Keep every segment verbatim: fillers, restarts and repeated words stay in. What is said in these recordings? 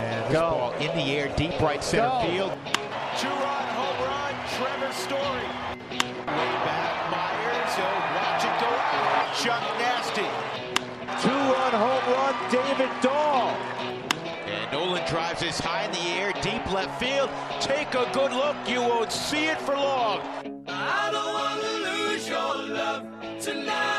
And this Go. ball in the air, deep right center Go. field. Two-run home run, Trevor Story. Way back, Myers. He'll watch it go out. Chuck Nasty. Two-run home run, David Dahl. And Nolan drives this high in the air, deep left field. Take a good look. You won't see it for long. I don't want to lose your love tonight.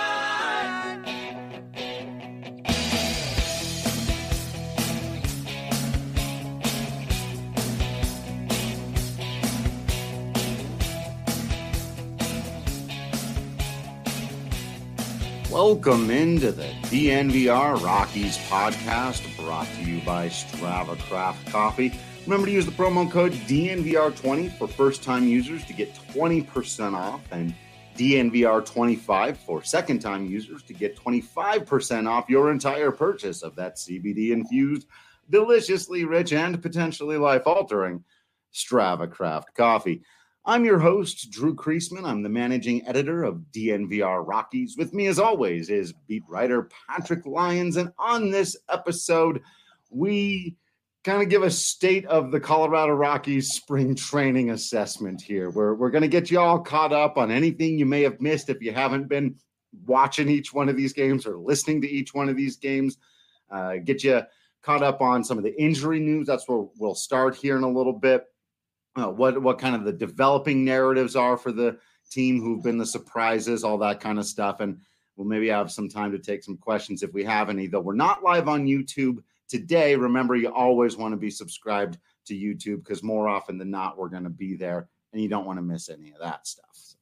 Welcome into the D N V R Rockies podcast, brought to you by Strava Craft Coffee. Remember to use the promo code D N V R twenty for first-time users to get twenty percent off, and D N V R twenty-five for second-time users to get twenty-five percent off your entire purchase of that C B D-infused, deliciously rich, and potentially life-altering Strava Craft Coffee. I'm your host, Drew Kreisman. I'm the managing editor of D N V R Rockies. With me, as always, is beat writer Patrick Lyons. And on this episode, we kind of give a state of the Colorado Rockies spring training assessment here. We're, we're going to get you all caught up on anything you may have missed if you haven't been watching each one of these games or listening to each one of these games. Uh, get you caught up on some of the injury news. That's where we'll start here in a little bit. Uh, what what kind of the developing narratives are for the team, who've been the surprises, all that kind of stuff. And we'll maybe have some time to take some questions if we have any, though we're not live on YouTube today. Remember, you always want to be subscribed to YouTube, because more often than not, we're going to be there and you don't want to miss any of that stuff.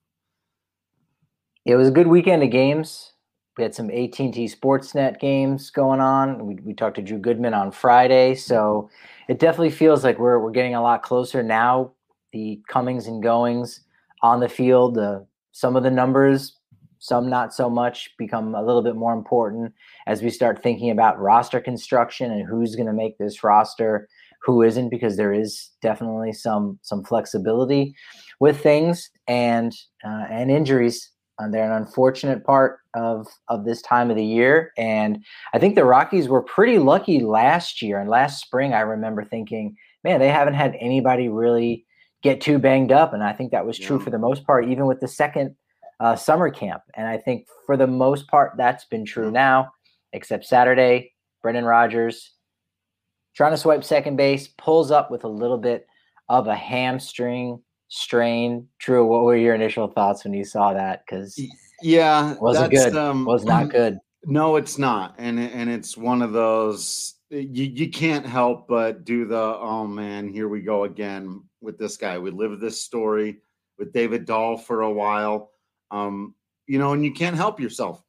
It was a good weekend of games. We had some A T and T Sportsnet games going on. We, we talked to Drew Goodman on Friday, so it definitely feels like we're we're getting a lot closer now. The comings and goings on the field, uh, some of the numbers, some not so much, become a little bit more important as we start thinking about roster construction and who's going to make this roster, who isn't, because there is definitely some some flexibility with things and uh, and injuries. Uh, they're an unfortunate part of, of this time of the year. And I think the Rockies were pretty lucky last year. And last spring, I remember thinking, man, they haven't had anybody really get too banged up. And I think that was true yeah. for the most part, even with the second uh, summer camp. And I think for the most part, that's been true now, except Saturday, Brendan Rodgers trying to swipe second base, pulls up with a little bit of a hamstring strain. Drew, what were your initial thoughts when you saw that? Because yeah, wasn't good. Um, was not good. No, it's not, and and it's one of those you you can't help but do the oh man, here we go again with this guy. We lived this story with David Dahl for a while, um, you know, and you can't help yourself,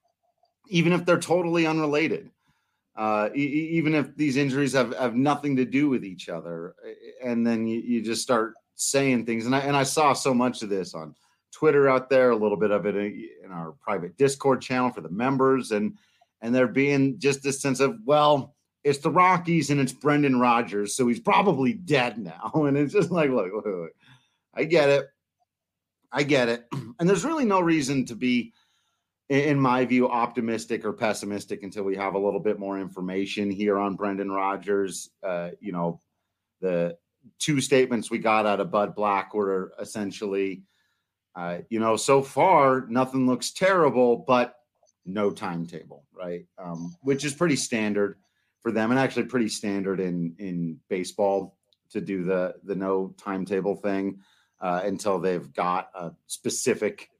even if they're totally unrelated. Uh, e- even if these injuries have, have nothing to do with each other, and then you, you just start saying things. And I, and I saw so much of this on Twitter out there, a little bit of it in our private Discord channel for the members. And, and there being just this sense of, well, it's the Rockies and it's Brendan Rodgers, so he's probably dead now. And it's just like, look, look, look, I get it. I get it. And there's really no reason to be, in my view, optimistic or pessimistic until we have a little bit more information here on Brendan Rodgers. Uh, you know, the two statements we got out of Bud Black were essentially, uh, you know, so far nothing looks terrible, but no timetable, right? Um, which is pretty standard for them, and actually pretty standard in in baseball to do the the no timetable thing uh, until they've got a specific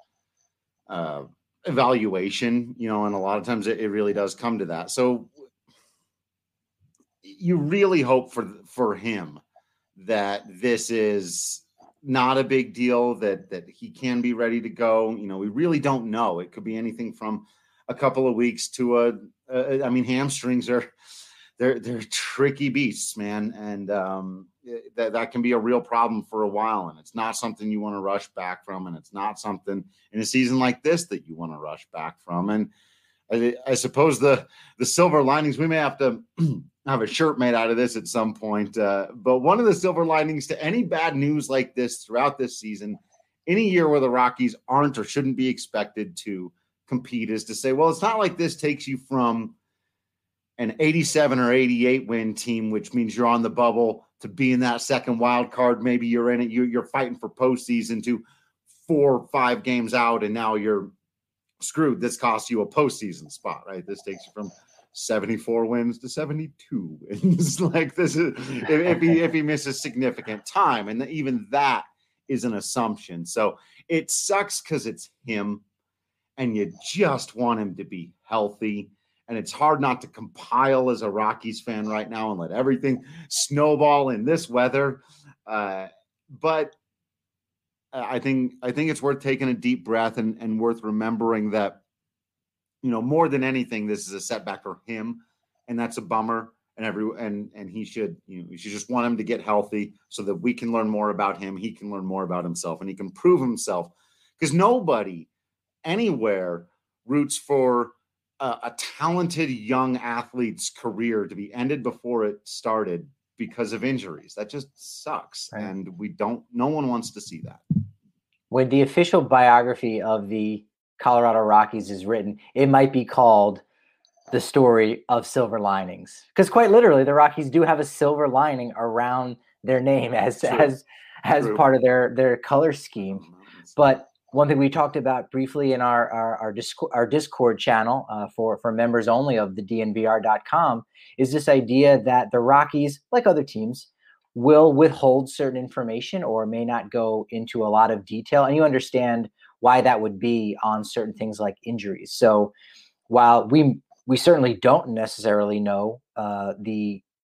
uh, evaluation, you know, and a lot of times it, it really does come to that. So you really hope for for him that this is not a big deal, that that he can be ready to go. You know, we really don't know. It could be anything from a couple of weeks to a, a I mean, hamstrings are, they're, they're tricky beasts, man. And um, that, that can be a real problem for a while. And it's not something you want to rush back from. And it's not something in a season like this that you want to rush back from. And I, I suppose the, the silver linings, we may have to have a shirt made out of this at some point. Uh, but one of the silver linings to any bad news like this throughout this season, any year where the Rockies aren't or shouldn't be expected to compete, is to say, well, it's not like this takes you from an eighty-seven or eighty-eight win team, which means you're on the bubble to be in that second wild card. Maybe you're in it. You, you're fighting for postseason to four or five games out, and now you're screwed. This costs you a postseason spot, right? This takes you from seventy-four wins to seventy-two wins. Like this is if, if he if he misses significant time, and even that is an assumption. So it sucks because it's him, and you just want him to be healthy. And it's hard not to compile as a Rockies fan right now and let everything snowball in this weather. Uh, but I think I think it's worth taking a deep breath and, and worth remembering that, you know, more than anything, this is a setback for him, and that's a bummer. And every and and he should, you know, we should just want him to get healthy so that we can learn more about him. He can learn more about himself, and he can prove himself. Because nobody anywhere roots for a, a talented young athlete's career to be ended before it started because of injuries. That just sucks, right. And we don't. No one wants to see that. When the official biography of the Colorado Rockies is written, it might be called The Story of Silver Linings, because quite literally the Rockies do have a silver lining around their name as True. as as True. part of their their color scheme. But one thing we talked about briefly in our our our Discord, our Discord channel uh, for for members only of the D N V R dot com is this idea that the Rockies, like other teams, will withhold certain information or may not go into a lot of detail. And you understand why that would be on certain things like injuries. So while we we certainly don't necessarily know uh, the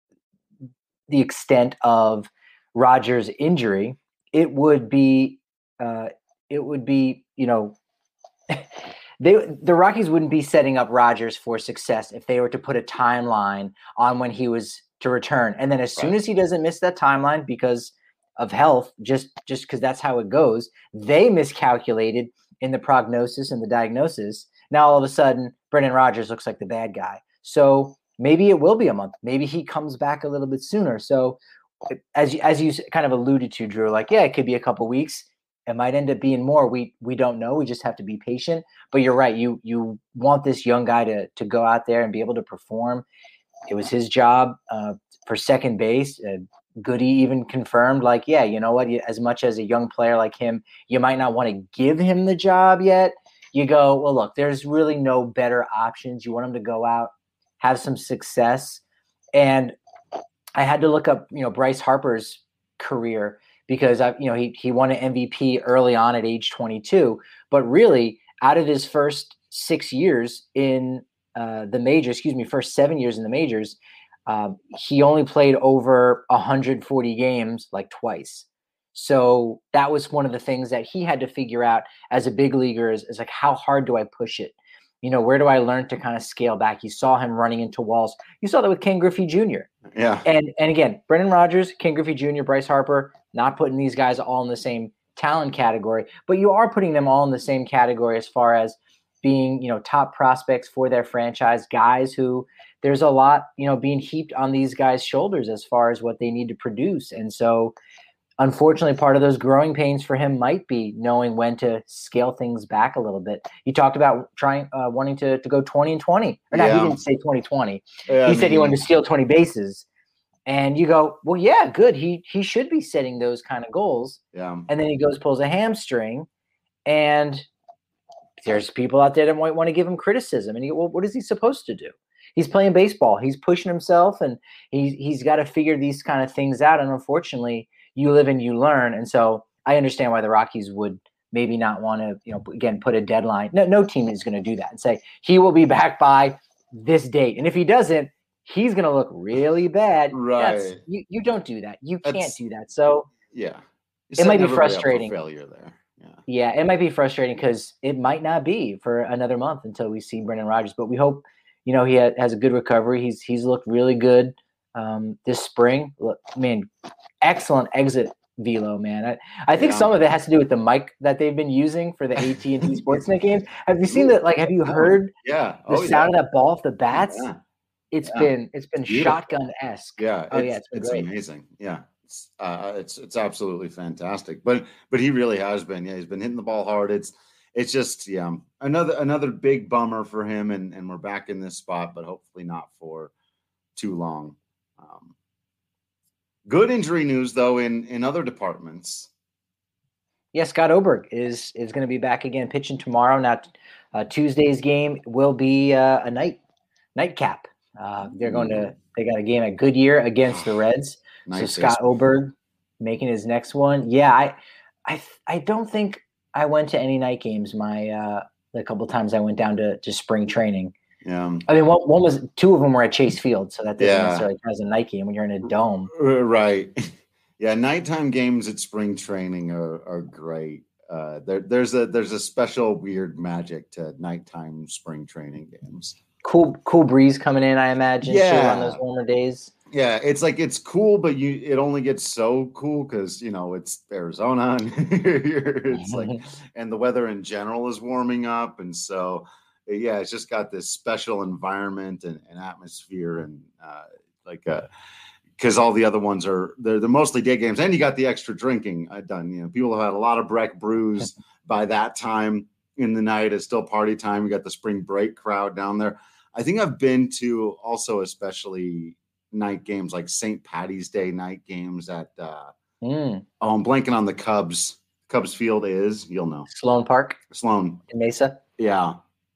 the extent of Rogers' injury, it would be uh, it would be, you know, they the Rockies wouldn't be setting up Rogers for success if they were to put a timeline on when he was to return. And then as soon as he doesn't miss that timeline because of health, just just because that's how it goes, they miscalculated in the prognosis and the diagnosis. Now all of a sudden, Brendan Rodgers looks like the bad guy. So maybe it will be a month. Maybe he comes back a little bit sooner. So as you, as you kind of alluded to, Drew, like, yeah, it could be a couple weeks. It might end up being more. We we don't know. We just have to be patient. But you're right. You you want this young guy to to go out there and be able to perform. It was his job uh, for second base. Uh, Goody even confirmed, like, yeah, you know what? As much as a young player like him, you might not want to give him the job yet. You go, well, look, there's really no better options. You want him to go out, have some success. And I had to look up, you know, Bryce Harper's career because I, you know, he he won an M V P early on at age twenty-two, but really out of his first six years in uh, the majors, excuse me, first seven years in the majors, um, he only played over one hundred forty games, like twice. So that was one of the things that he had to figure out as a big leaguer is, is like, how hard do I push it? You know, where do I learn to kind of scale back? You saw him running into walls. You saw that with Ken Griffey Junior Yeah. And and again, Brendan Rodgers, Ken Griffey Junior, Bryce Harper, not putting these guys all in the same talent category, but you are putting them all in the same category as far as being, you know, top prospects for their franchise, guys who there's a lot, you know, being heaped on these guys' shoulders as far as what they need to produce. And so unfortunately, part of those growing pains for him might be knowing when to scale things back a little bit. You talked about trying, uh, wanting to to go twenty and twenty. Or not, yeah. He didn't say twenty twenty. Yeah, he I said mean, he wanted to steal twenty bases. And you go, well, yeah, good. He he should be setting those kind of goals. Yeah. And then he goes, pulls a hamstring, and there's people out there that might want to give him criticism. And you go, well, what is he supposed to do? He's playing baseball. He's pushing himself, and he's he's got to figure these kind of things out. And unfortunately, you live and you learn. And so I understand why the Rockies would maybe not want to, you know, again, put a deadline. No, no team is going to do that and say he will be back by this date. And if he doesn't, he's going to look really bad. Right. That's, you, you don't do that. You can't That's, do that. So yeah, it might be frustrating. Failure there. Yeah. Yeah, it might be frustrating because it might not be for another month until we see Brendan Rodgers. But we hope, you know, he ha- has a good recovery. He's he's looked really good um, this spring. Look, man, excellent exit velo, man. I, I think yeah. some of it has to do with the mic that they've been using for the A T and T Sportsnet games. Have you seen that? Like, have you heard yeah. the oh, sound yeah. of that ball off the bats? Yeah. It's yeah. been it's been shotgun-esque. Yeah. Oh, it's, yeah, it's been it's great. amazing. Yeah. It's, uh, it's it's absolutely fantastic. But but he really has been. Yeah, he's been hitting the ball hard. It's it's just, yeah, another another big bummer for him, and, and we're back in this spot, but hopefully not for too long. Um, good injury news, though, in, in other departments. Yeah, Scott Oberg is is going to be back again pitching tomorrow. Now, uh, Tuesday's game will be uh, a night nightcap. Uh, they're going to they got a game at Goodyear against the Reds. Nice. So Scott Oberg making his next one. Yeah, I I I don't think I went to any night games. My uh, the couple times I went down to, to spring training. Yeah, I mean, one, one was two of them were at Chase Field, so that doesn't yeah. necessarily count as a night game when you're in a dome. Right. Yeah, nighttime games at spring training are are great. Uh, there, there's a there's a special weird magic to nighttime spring training games. Cool, cool breeze coming in, I imagine. Yeah, too, on those warmer days. Yeah, it's like it's cool, but you it only gets so cool because you know it's Arizona, and it's like, and the weather in general is warming up, and so yeah, it's just got this special environment and, and atmosphere, and uh, like a. Because all the other ones are they're, they're mostly day games, and you got the extra drinking uh, done. You know, people have had a lot of Breck brews by that time in the night. It's still party time. We got the spring break crowd down there. I think I've been to also especially night games like Saint Patty's Day night games at. Uh, mm. Oh, I'm blanking on the Cubs. Cubs Field is you'll know Sloan Park, Sloan in Mesa. Yeah.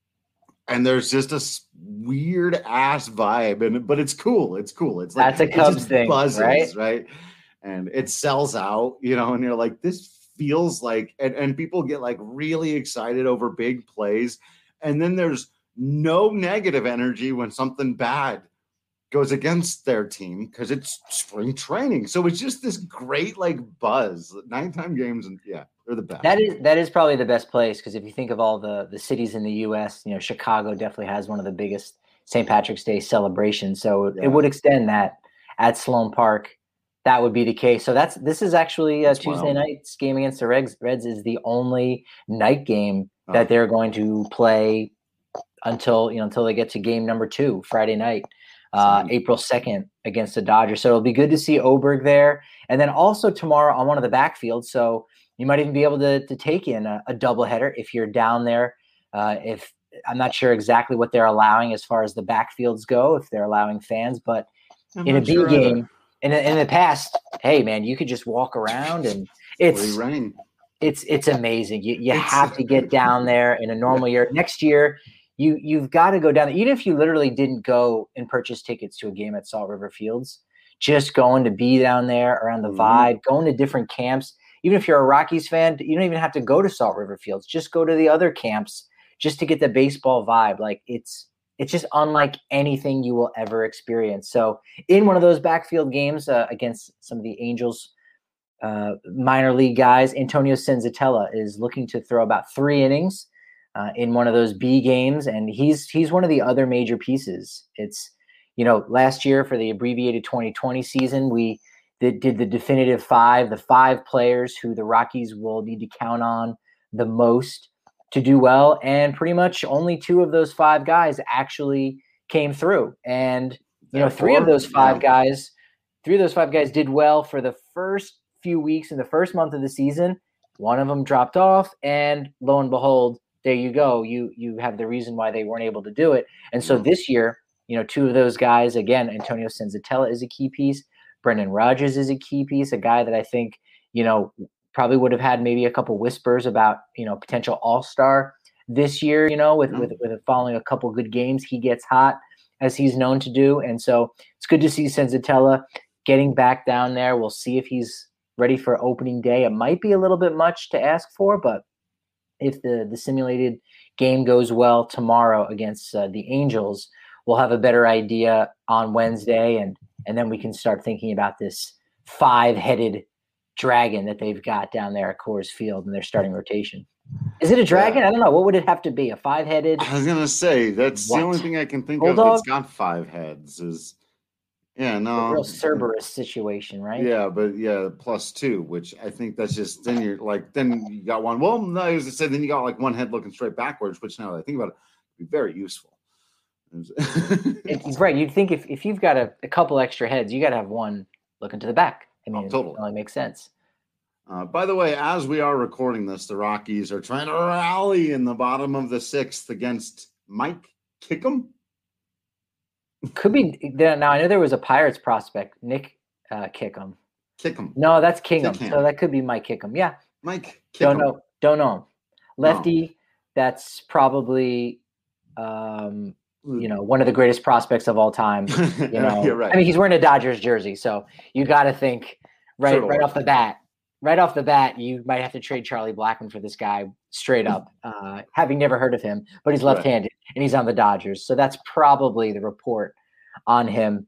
And there's just a weird ass vibe, and but it's cool. It's cool. It's like that's a Cubs thing, buzzes, right? Right, and it sells out, you know. And you're like, this feels like, and, and people get like really excited over big plays, and then there's no negative energy when something bad goes against their team because it's spring training. So it's just this great like buzz. Nighttime games, and yeah. They're the best. That is that is probably the best place because if you think of all the the cities in the U S, you know, Chicago definitely has one of the biggest Saint Patrick's Day celebrations. So yeah. It would extend that at Sloan Park. That would be the case. So that's this is actually uh, Tuesday wild. Night's game against the Reds. Reds is the only night game oh. that they're going to play until you know until they get to game number two Friday night, uh, April second against the Dodgers. So it'll be good to see Oberg there, and then also tomorrow on one of the backfields. So. You might even be able to, to take in a, a doubleheader if you're down there. Uh, if I'm not sure exactly what they're allowing as far as the backfields go, if they're allowing fans, but I'm in a B sure game, in, in the past, hey man, you could just walk around and it's it's it's amazing. You you it's, have to get down there in a normal year. Next year, you you've got to go down there. Even if you literally didn't go and purchase tickets to a game at Salt River Fields, just going to be down there around the mm-hmm. vibe, going to different camps. Even if you're a Rockies fan, you don't even have to go to Salt River Fields. Just go to the other camps just to get the baseball vibe. Like it's it's just unlike anything you will ever experience. So in one of those backfield games uh, against some of the Angels uh, minor league guys, Antonio Senzatella is looking to throw about three innings uh, in one of those B games, and he's he's one of the other major pieces. It's you know last year for the abbreviated twenty twenty season, we. That did the definitive five, the five players who the Rockies will need to count on the most to do well. And pretty much only two of those five guys actually came through. And, you know, three of those five guys, three of those five guys did well for the first few weeks in the first month of the season. One of them dropped off, and lo and behold, there you go. You, you have the reason why they weren't able to do it. And so this year, you know, two of those guys, again, Antonio Senzatella is a key piece. Brendan Rodgers is a key piece, a guy that I think, you know, probably would have had maybe a couple whispers about, you know, potential all-star this year, you know, with, mm-hmm. with, with following a couple good games. He gets hot as he's known to do. And so it's good to see Senzatella getting back down there. We'll see if he's ready for opening day. It might be a little bit much to ask for, but if the, the simulated game goes well tomorrow against uh, the Angels, we'll have a better idea on Wednesday, and and then we can start thinking about this five-headed dragon that they've got down there at Coors Field in their starting rotation. Is it a dragon? Yeah. I don't know. What would it have to be? A five-headed? I was going to say, that's what? The only thing I can think Bulldog? Of that's got five heads is, yeah, no. A real Cerberus situation, right? Yeah, but yeah, plus two, which I think that's just, then you're like, then you got one. Well, no, as I said, then you got like one head looking straight backwards, which now that I think about it, would be very useful. It's right. You'd think if, if you've got a, a couple extra heads, you got to have one looking to the back. I mean, oh, totally. It only makes sense. Uh, by the way, as we are recording this, the Rockies are trying to rally in the bottom of the sixth against Mike Kickham. Could be now. I know there was a Pirates prospect, Nick uh, Kickham. Kickham. No, that's Kingham. Kickham. So that could be Mike Kickham. Yeah. Mike Kickham. Don't know. Don't know him. Lefty. No. That's probably, um, you know, one of the greatest prospects of all time. You know, You're right. I mean, he's wearing a Dodgers jersey, so you got to think right, Sure. right off the bat. Right off the bat, you might have to trade Charlie Blackmon for this guy straight up, uh, having never heard of him, but he's left-handed right. and he's on the Dodgers. So that's probably the report on him.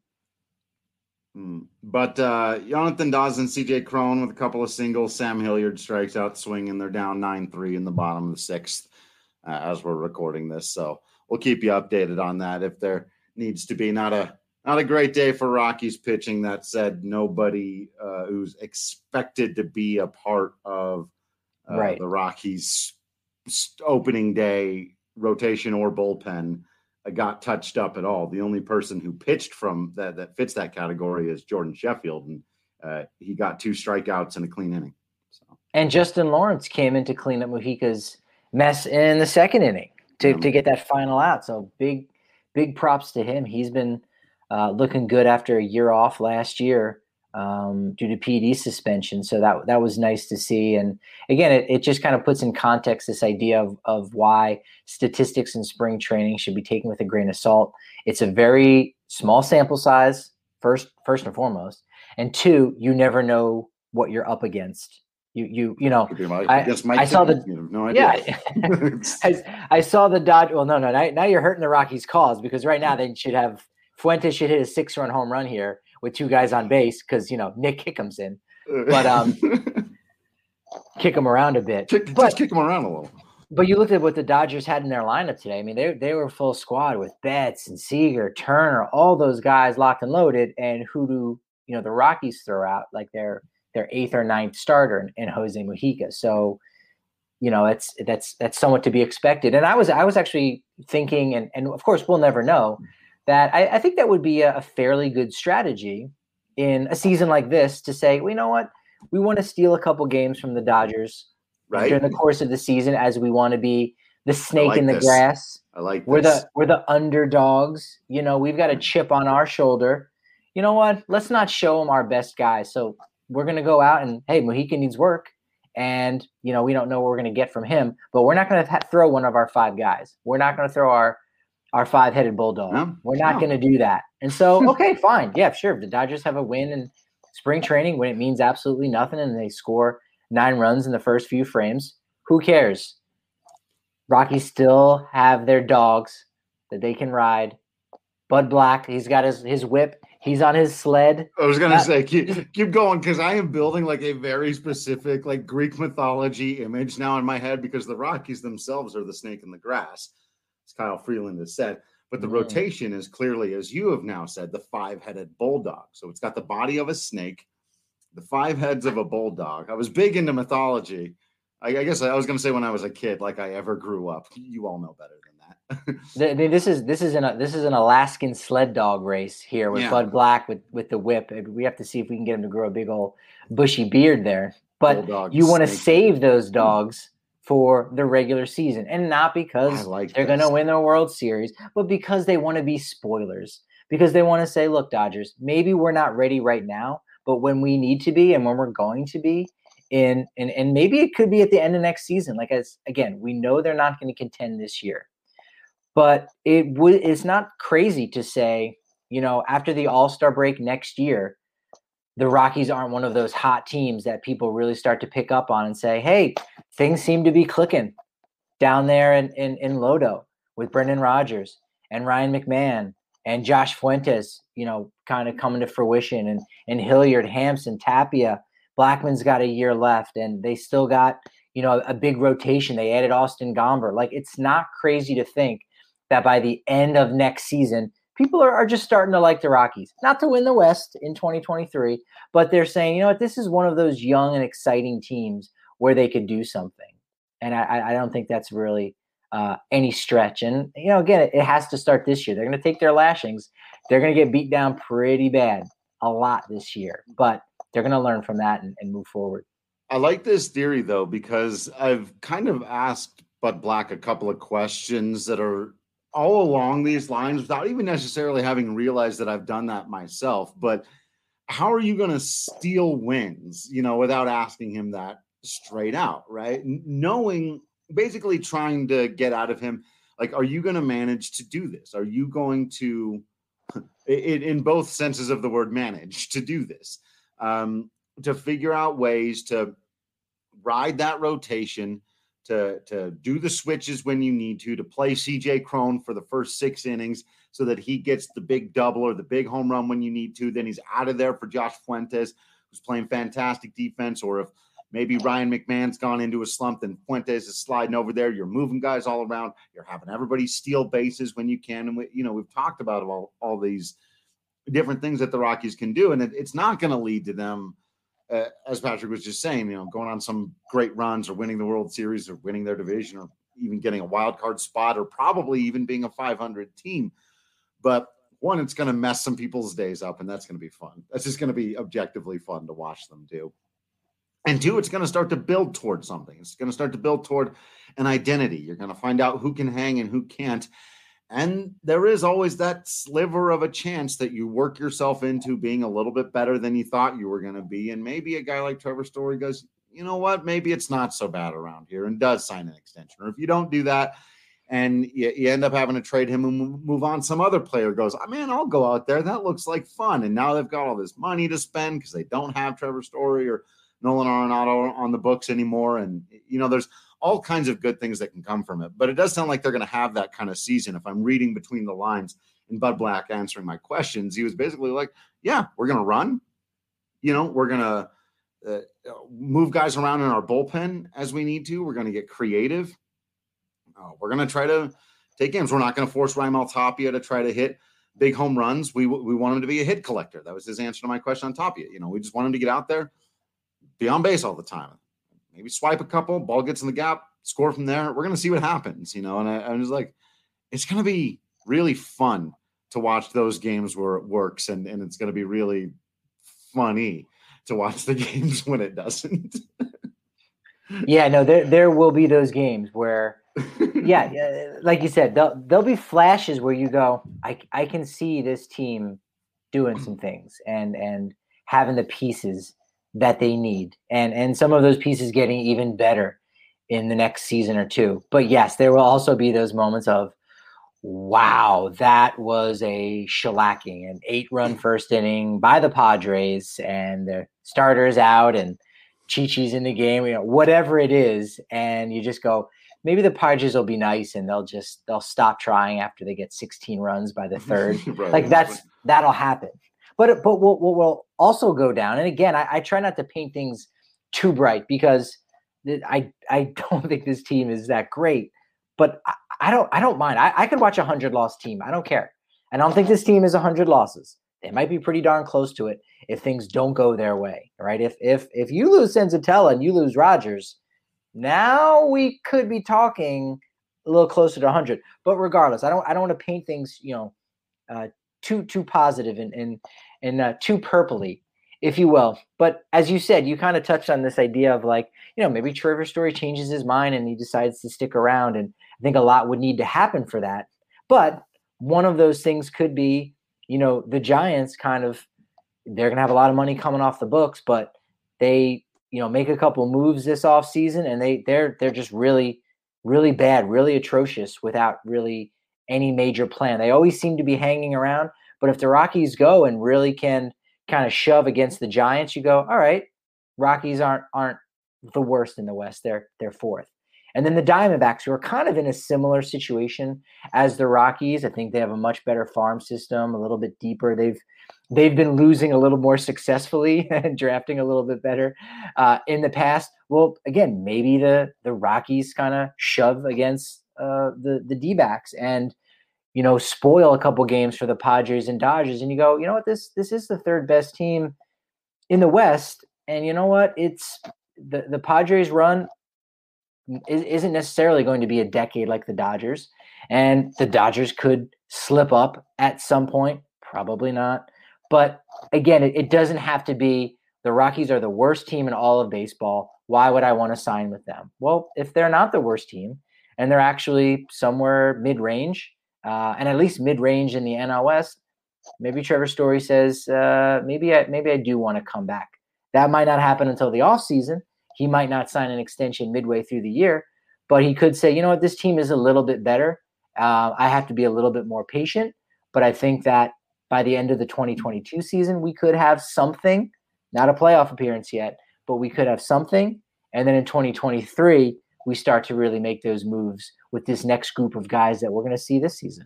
Mm. But uh, Jonathan Dawson, C J Cron with a couple of singles, Sam Hilliard strikes out swinging. They're down nine three in the bottom of the sixth uh, as we're recording this. So we'll keep you updated on that if there needs to be. Not a Not a great day for Rockies pitching. That said, nobody uh, who's expected to be a part of uh, right. the Rockies' opening day rotation or bullpen uh, got touched up at all. The only person who pitched from that that fits that category is Jordan Sheffield, and uh, he got two strikeouts and a clean inning. So. And Justin Lawrence came in to clean up Mujica's mess in the second inning to, yeah. to get that final out. So big, big props to him. He's been Uh, looking good after a year off last year um, due to P E D suspension. So that that was nice to see. And again, it, it just kind of puts in context this idea of, of why statistics in spring training should be taken with a grain of salt. It's a very small sample size, first first and foremost. And two, you never know what you're up against. You you you know, I, I saw the no idea. Yeah, I, I saw the Dodge. Well, no, no, now, now you're hurting the Rockies' cause because right now they should have Fuentes should hit a six-run home run here with two guys on base because, you know, Nick Kickham's in. But um, kick him around a bit. Kick, but, just kick him around a little. But you looked at what the Dodgers had in their lineup today. I mean, they they were full squad with Betts and Seager, Turner, all those guys locked and loaded. And who do, you know, the Rockies throw out like their their eighth or ninth starter in, in Jose Mujica. So, you know, it's that's that's somewhat to be expected. And I was I was actually thinking, and, and of course we'll never know, that I, I think that would be a, a fairly good strategy in a season like this to say, well, you know what, we want to steal a couple games from the Dodgers right. during the course of the season as we want to be the snake like in the this. grass. I like we're this. the we're the underdogs. You know, we've got a chip on our shoulder. You know what? Let's not show them our best guys. So we're gonna go out and hey, Mujica needs work, and you know we don't know what we're gonna get from him, but we're not gonna ha- throw one of our five guys. We're not gonna throw our Our five-headed bulldog. No, We're not no. going to do that. And so, okay, fine. Yeah, sure. If the Dodgers have a win in spring training when it means absolutely nothing and they score nine runs in the first few frames, who cares? Rockies still have their dogs that they can ride. Bud Black, he's got his, his whip. He's on his sled. I was going to say, keep, keep going because I am building like a very specific like Greek mythology image now in my head because the Rockies themselves are the snake in the grass. Kyle Freeland has said, but the mm. rotation is clearly, as you have now said, the five-headed bulldog. So it's got the body of a snake, the five heads of a bulldog. I was big into mythology. I, I guess I was going to say when I was a kid, like I ever grew up. You all know better than that. this is this is an this is an Alaskan sled dog race here with yeah. Bud Black with with the whip. We have to see if we can get him to grow a big old bushy beard there. But bulldog, you want to save those dogs for the regular season, and not because like they're going to win the World Series, but because they want to be spoilers, because they want to say, look, Dodgers, maybe we're not ready right now, but when we need to be and when we're going to be in, and, and maybe it could be at the end of next season. Like, as again, we know they're not going to contend this year, but it would, it's not crazy to say, you know, after the All-Star break next year, the Rockies aren't one of those hot teams that people really start to pick up on and say, hey, things seem to be clicking down there in, in, in Lodo with Brendan Rodgers and Ryan McMahon and Josh Fuentes, you know, kind of coming to fruition, and, and Hilliard, Hampson, Tapia. Blackman's got a year left, and they still got, you know, a big rotation. They added Austin Gomber. Like, it's not crazy to think that by the end of next season, people are, are just starting to like the Rockies. Not to win the West in twenty twenty-three, but they're saying, you know what, this is one of those young and exciting teams where they could do something. And I, I don't think that's really uh, any stretch. And, you know, again, it, it has to start this year. They're going to take their lashings. They're going to get beat down pretty bad a lot this year, but they're going to learn from that and, and move forward. I like this theory though, because I've kind of asked Bud Black a couple of questions that are all along these lines without even necessarily having realized that I've done that myself. But how are you going to steal wins, you know, without asking him that straight out, right? Knowing, basically trying to get out of him, like, are you going to manage to do this? Are you going to, in, in both senses of the word, manage to do this, um, to figure out ways to ride that rotation, to, to do the switches when you need to, to play C J Cron for the first six innings so that he gets the big double or the big home run when you need to. Then he's out of there for Josh Fuentes, who's playing fantastic defense. Or if maybe Ryan McMahon's gone into a slump, then Fuentes is sliding over there. You're moving guys all around. You're having everybody steal bases when you can. And, we, you know, we've talked about all, all these different things that the Rockies can do. And it, it's not going to lead to them, uh, as Patrick was just saying, you know, going on some great runs or winning the World Series or winning their division or even getting a wild card spot or probably even being a five hundred team. But one, it's going to mess some people's days up, and that's going to be fun. That's just going to be objectively fun to watch them do. And two, it's going to start to build toward something. It's going to start to build toward an identity. You're going to find out who can hang and who can't. And there is always that sliver of a chance that you work yourself into being a little bit better than you thought you were going to be. And maybe a guy like Trevor Story goes, you know what, maybe it's not so bad around here, and does sign an extension. Or if you don't do that, and you, you end up having to trade him and move on, some other player goes, oh, man, I'll go out there. That looks like fun. And now they've got all this money to spend because they don't have Trevor Story or Nolan Arenado on the books anymore. And, you know, there's all kinds of good things that can come from it. But it does sound like they're going to have that kind of season. If I'm reading between the lines and Bud Black answering my questions, he was basically like, yeah, we're going to run. You know, we're going to uh, move guys around in our bullpen as we need to. We're going to get creative. Uh, we're going to try to take games. We're not going to force Raimel Tapia to try to hit big home runs. We we want him to be a hit collector. That was his answer to my question on Tapia. You know, we just want him to get out there, be on base all the time. Maybe swipe a couple, ball gets in the gap, score from there. We're going to see what happens, you know. And I, I was like, it's going to be really fun to watch those games where it works, and, and it's going to be really funny to watch the games when it doesn't. Yeah, no, there there will be those games where, yeah, like you said, there'll, there'll be flashes where you go, I, I can see this team doing some things and and having the pieces that they need, and and some of those pieces getting even better in the next season or two. But yes, there will also be those moments of, wow, that was a shellacking, an eight-run first inning by the Padres, and the starters out, and Chi-Chi's in the game, you know, whatever it is, and you just go, maybe the Padres will be nice and they'll just they'll stop trying after they get sixteen runs by the third. Right. Like that's that'll happen. But but what will we'll also go down, and again, I, I try not to paint things too bright because I I don't think this team is that great. But I, I don't I don't mind. I, I could watch a hundred loss team. I don't care. I don't think this team is a hundred losses. They might be pretty darn close to it if things don't go their way, right? If if if you lose Senzatella and you lose Rogers, now we could be talking a little closer to one hundred. But regardless, I don't I don't want to paint things, you know, uh, too too positive and and and uh, too purpley, if you will. But as you said, you kind of touched on this idea of like, you know, maybe Trevor Story changes his mind and he decides to stick around, and I think a lot would need to happen for that. But one of those things could be, you know, the Giants kind of, they're going to have a lot of money coming off the books, but they, you know, make a couple moves this offseason and they they're they're just really, really bad, really atrocious without really any major plan. They always seem to be hanging around, but if the Rockies go and really can kind of shove against the Giants, you go, all right, Rockies aren't aren't the worst in the West. They're they're fourth. And then the Diamondbacks, who are kind of in a similar situation as the Rockies. I think they have a much better farm system, a little bit deeper. They've they've been losing a little more successfully and drafting a little bit better uh, in the past. Well, again, maybe the the Rockies kind of shove against uh, the the D-backs and, you know, spoil a couple games for the Padres and Dodgers. And you go, you know what, this this is the third best team in the West. And you know what, it's the the Padres run isn't necessarily going to be a decade like the Dodgers, and the Dodgers could slip up at some point. Probably not. But again, it, it doesn't have to be the Rockies are the worst team in all of baseball. Why would I want to sign with them? Well, if they're not the worst team and they're actually somewhere mid-range, uh, and at least mid-range in the N L West, maybe Trevor Story says, uh, maybe I maybe I do want to come back. That might not happen until the offseason. He might not sign an extension midway through the year, but he could say, you know what, this team is a little bit better. Uh, I have to be a little bit more patient, but I think that by the end of the twenty twenty-two season, we could have something, not a playoff appearance yet, but we could have something. And then in twenty twenty-three, we start to really make those moves with this next group of guys that we're going to see this season.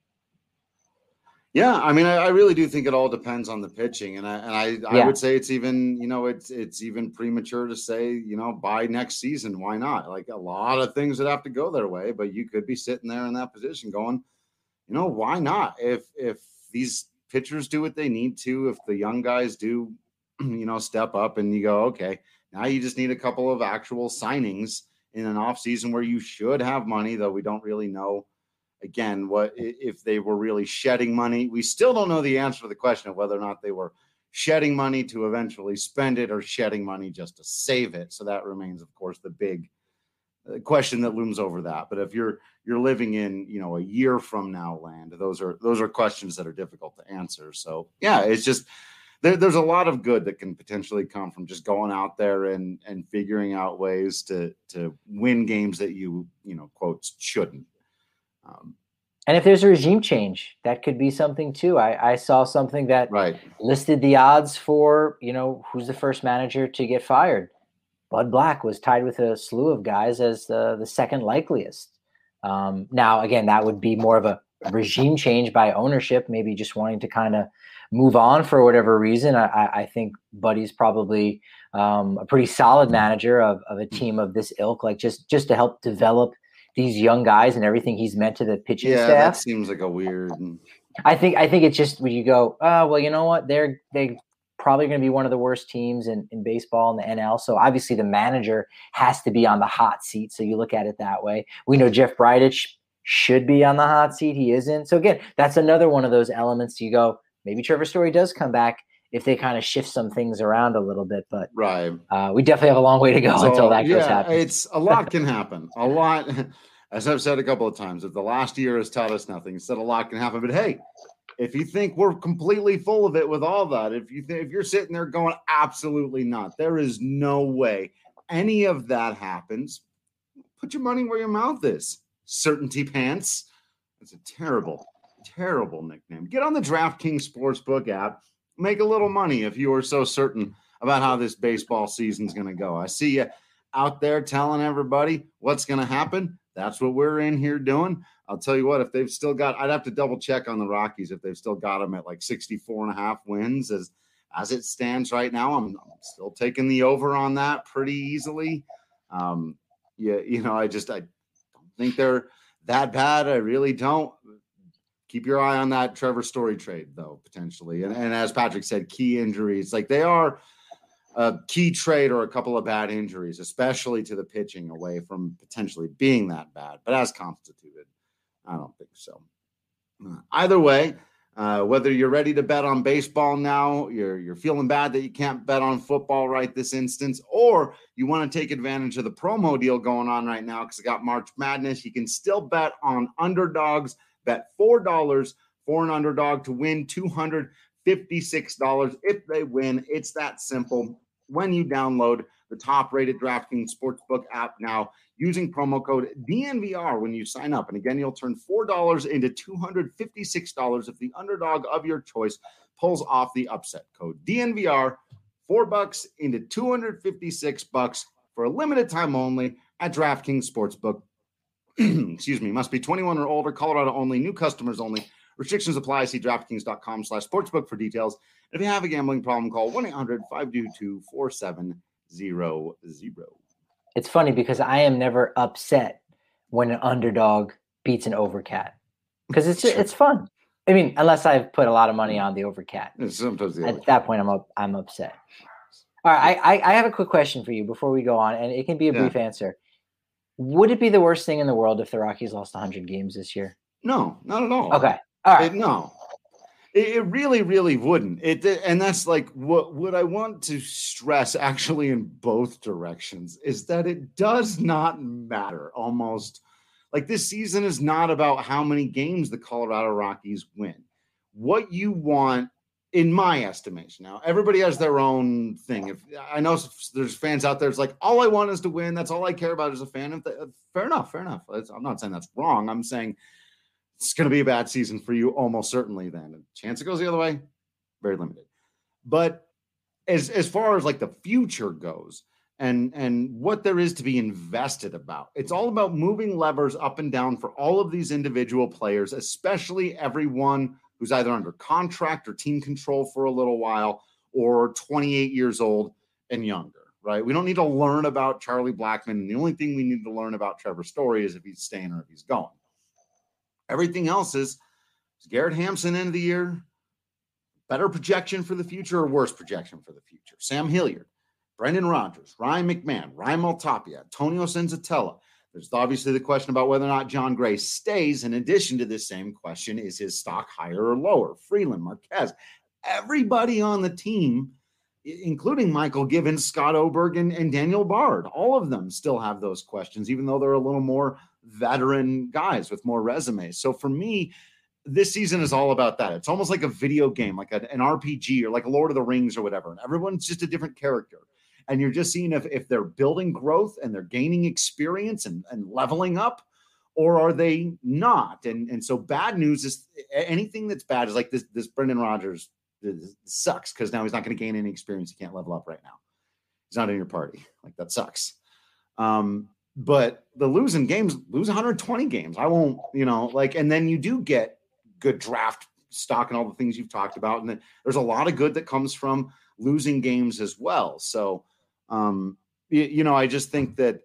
Yeah, I mean, I, I really do think it all depends on the pitching, and I and I, I Yeah. would say it's even, you know, it's it's even premature to say, you know, by next season, why not? Like a lot of things that have to go their way, but you could be sitting there in that position going, you know, why not? If if these pitchers do what they need to, if the young guys do, you know, step up, and you go, okay, now you just need a couple of actual signings in an off season where you should have money, though we don't really know. Again, what if they were really shedding money? We still don't know the answer to the question of whether or not they were shedding money to eventually spend it or shedding money just to save it. So that remains, of course, the big question that looms over that. But if you're you're living in, you know, a year from now land, those are those are questions that are difficult to answer. So yeah, it's just there, there's a lot of good that can potentially come from just going out there and and figuring out ways to to win games that you you know quotes shouldn't. Um, and if there's a regime change, that could be something too. I, I saw something that right. listed the odds for, you know, who's the first manager to get fired. Bud Black was tied with a slew of guys as the, the second likeliest. Um, now, again, that would be more of a regime change by ownership, maybe just wanting to kind of move on for whatever reason. I, I think Buddy's probably um, a pretty solid manager of, of a team of this ilk, like just, just to help develop these young guys and everything he's meant to the pitching yeah, staff. Yeah, that seems like a weird. I think I think it's just when you go, oh, well, you know what? They're they probably going to be one of the worst teams in, in baseball in the N L. So obviously the manager has to be on the hot seat. So you look at it that way. We know Jeff Bridich should be on the hot seat. He isn't. So again, that's another one of those elements. You go, maybe Trevor Story does come back if they kind of shift some things around a little bit. But right, uh, we definitely have a long way to go so, until that yeah, goes happen. It's a lot can happen. A lot, as I've said a couple of times, if the last year has taught us nothing, said a lot can happen. But hey, if you think we're completely full of it with all that, if you think if you're sitting there going, absolutely not, there is no way any of that happens. Put your money where your mouth is. Certainty Pants. It's a terrible, terrible nickname. Get on the DraftKings Sportsbook app. Make a little money if you are so certain about how this baseball season's going to go. I see you out there telling everybody what's going to happen. That's what we're in here doing. I'll tell you what, if they've still got, I'd have to double check on the Rockies if they've still got them at like sixty-four and a half wins. As as it stands right now, I'm, I'm still taking the over on that pretty easily. Um, yeah, you know, I just, I don't think they're that bad. I really don't. Keep your eye on that Trevor Story trade, though, potentially. And, and as Patrick said, key injuries. Like they are a key trade or a couple of bad injuries, especially to the pitching away from potentially being that bad. But as constituted, I don't think so. Uh, either way, uh, whether you're ready to bet on baseball now, you're, you're feeling bad that you can't bet on football right this instance, or you want to take advantage of the promo deal going on right now because it got March Madness, you can still bet on underdogs. Bet four dollars for an underdog to win two hundred fifty-six dollars if they win. It's that simple. When you download the top-rated DraftKings Sportsbook app now, using promo code D N V R when you sign up. And again, you'll turn four dollars into two hundred fifty-six dollars if the underdog of your choice pulls off the upset. Code D N V R, four bucks into two hundred fifty-six bucks for a limited time only at DraftKings Sportsbook. Excuse me, must be twenty-one or older, Colorado only, new customers only. Restrictions apply. See DraftKings.com slash sportsbook for details. If you have a gambling problem, call one eight hundred five two two four seven zero zero. It's funny because I am never upset when an underdog beats an overcat because it's it's fun. I mean, unless I've put a lot of money on the overcat. Sometimes the At that point, I'm up, I'm upset. All right, I, I I have a quick question for you before we go on, and it can be a Yeah. brief answer. Would it be the worst thing in the world if the Rockies lost one hundred games this year? No, not at all. Okay. All right. It, no. It, it really, really wouldn't. It and that's like what what I want to stress actually in both directions is that it does not matter almost. Like this season is not about how many games the Colorado Rockies win. What you want, in my estimation, now everybody has their own thing. If I know there's fans out there, it's like all I want is to win. That's all I care about as a fan. Fair enough, fair enough. I'm not saying that's wrong. I'm saying it's going to be a bad season for you, almost certainly. Then a chance it goes the other way, very limited. But as as far as like the future goes, and and what there is to be invested about, it's all about moving levers up and down for all of these individual players, especially everyone who's either under contract or team control for a little while, or twenty-eight years old and younger. Right? We don't need to learn about Charlie Blackmon. The only thing we need to learn about Trevor Story is if he's staying or if he's going. Everything else is, is Garrett Hampson end of the year, better projection for the future or worse projection for the future? Sam Hilliard, Brendan Rodgers, Ryan McMahon, Ryan Maltapia, Antonio Senzatella. There's obviously the question about whether or not John Gray stays. In addition to this same question, is his stock higher or lower? Freeland, Marquez, everybody on the team, including Michael Givens, Scott Oberg, and, and Daniel Bard, all of them still have those questions, even though they're a little more veteran guys with more resumes. So for me, this season is all about that. It's almost like a video game, like a, an R P G or like a Lord of the Rings or whatever. And everyone's just a different character. And you're just seeing if, if they're building growth and they're gaining experience and, and leveling up, or are they not? And, and so bad news is anything that's bad is like this, this Brendan Rodgers this sucks because now he's not going to gain any experience. He can't level up right now. He's not in your party. Like that sucks. Um, But the losing games, lose one hundred twenty games. I won't, you know, like, and then you do get good draft stock and all the things you've talked about. And then there's a lot of good that comes from losing games as well. So, um, you, you know, I just think that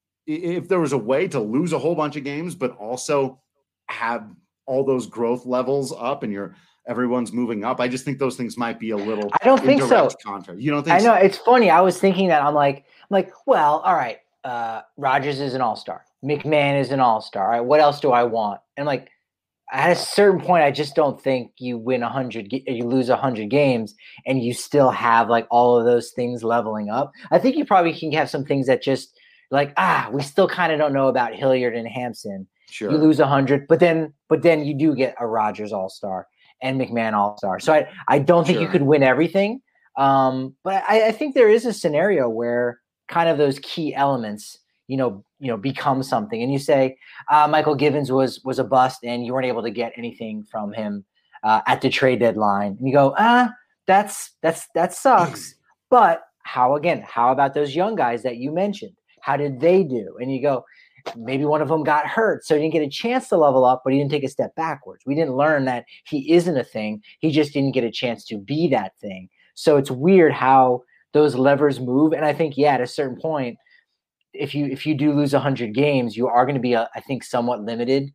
if there was a way to lose a whole bunch of games, but also have all those growth levels up and you're, everyone's moving up, I just think those things might be a little, I don't think so. Contrary. You don't think I know so? It's funny. I was thinking that I'm like, I'm like, well, all right. Uh, Rodgers is an all-star. McMahon is an all-star. All right, what else do I want? And like, at a certain point, I just don't think you win a hundred, you lose a hundred games, and you still have like all of those things leveling up. I think you probably can have some things that just like ah, we still kind of don't know about Hilliard and Hampson. Sure, you lose a hundred, but then, but then you do get a Rodgers all-star and McMahon all-star. So I, I don't think sure. you could win everything. Um, but I, I think there is a scenario where kind of those key elements, you know, you know, become something. And you say uh, Michael Givens was was a bust, and you weren't able to get anything from him uh, at the trade deadline. And you go, ah, that's that's that sucks. But how again? How about those young guys that you mentioned? How did they do? And you go, maybe one of them got hurt, so he didn't get a chance to level up, but he didn't take a step backwards. We didn't learn that he isn't a thing. He just didn't get a chance to be that thing. So it's weird how those levers move. And I think, yeah, at a certain point, if you if you do lose one hundred games, you are going to be, uh, I think, somewhat limited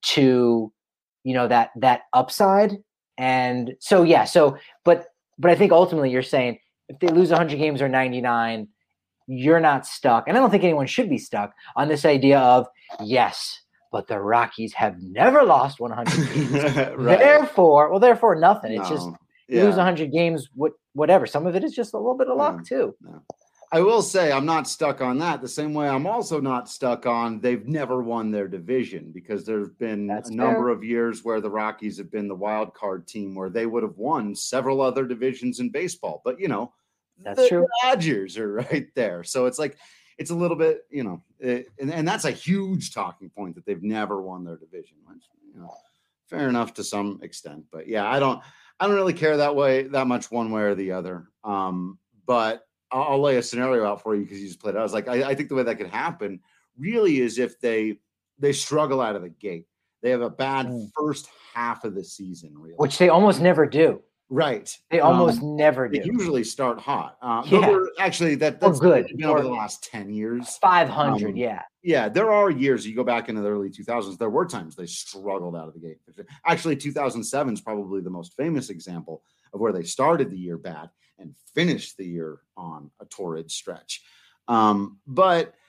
to, you know, that that upside. And so, yeah, so but but I think ultimately you're saying if they lose one hundred games or ninety-nine, you're not stuck. And I don't think anyone should be stuck on this idea of, yes, but the Rockies have never lost one hundred games. Right. Therefore, well, therefore nothing. No. It's just you yeah. lose one hundred games, what, whatever. Some of it is just a little bit of luck, yeah. too. Yeah. I will say I'm not stuck on that the same way I'm also not stuck on they've never won their division, because there's been That's a fair. number of years where the Rockies have been the wild card team where they would have won several other divisions in baseball. But, you know, That's the true. Dodgers are right there. So it's like it's a little bit, you know, it, and, and that's a huge talking point that they've never won their division. Which, you know, fair enough to some extent. But, yeah, I don't I don't really care that way that much one way or the other. Um, but I'll lay a scenario out for you because you just played it. I was like, I, I think the way that could happen really is if they they struggle out of the gate. They have a bad mm. first half of the season, really, which they almost never do. Right, they almost um, do. never do. They usually start hot. Uh, yeah. but actually, that that's good been over the last ten years. Five hundred, um, yeah, yeah. There are years you go back into the early two thousands. There were times they struggled out of the gate. Actually, two thousand seven is probably the most famous example of where they started the year bad and finished the year on a torrid stretch. Um, but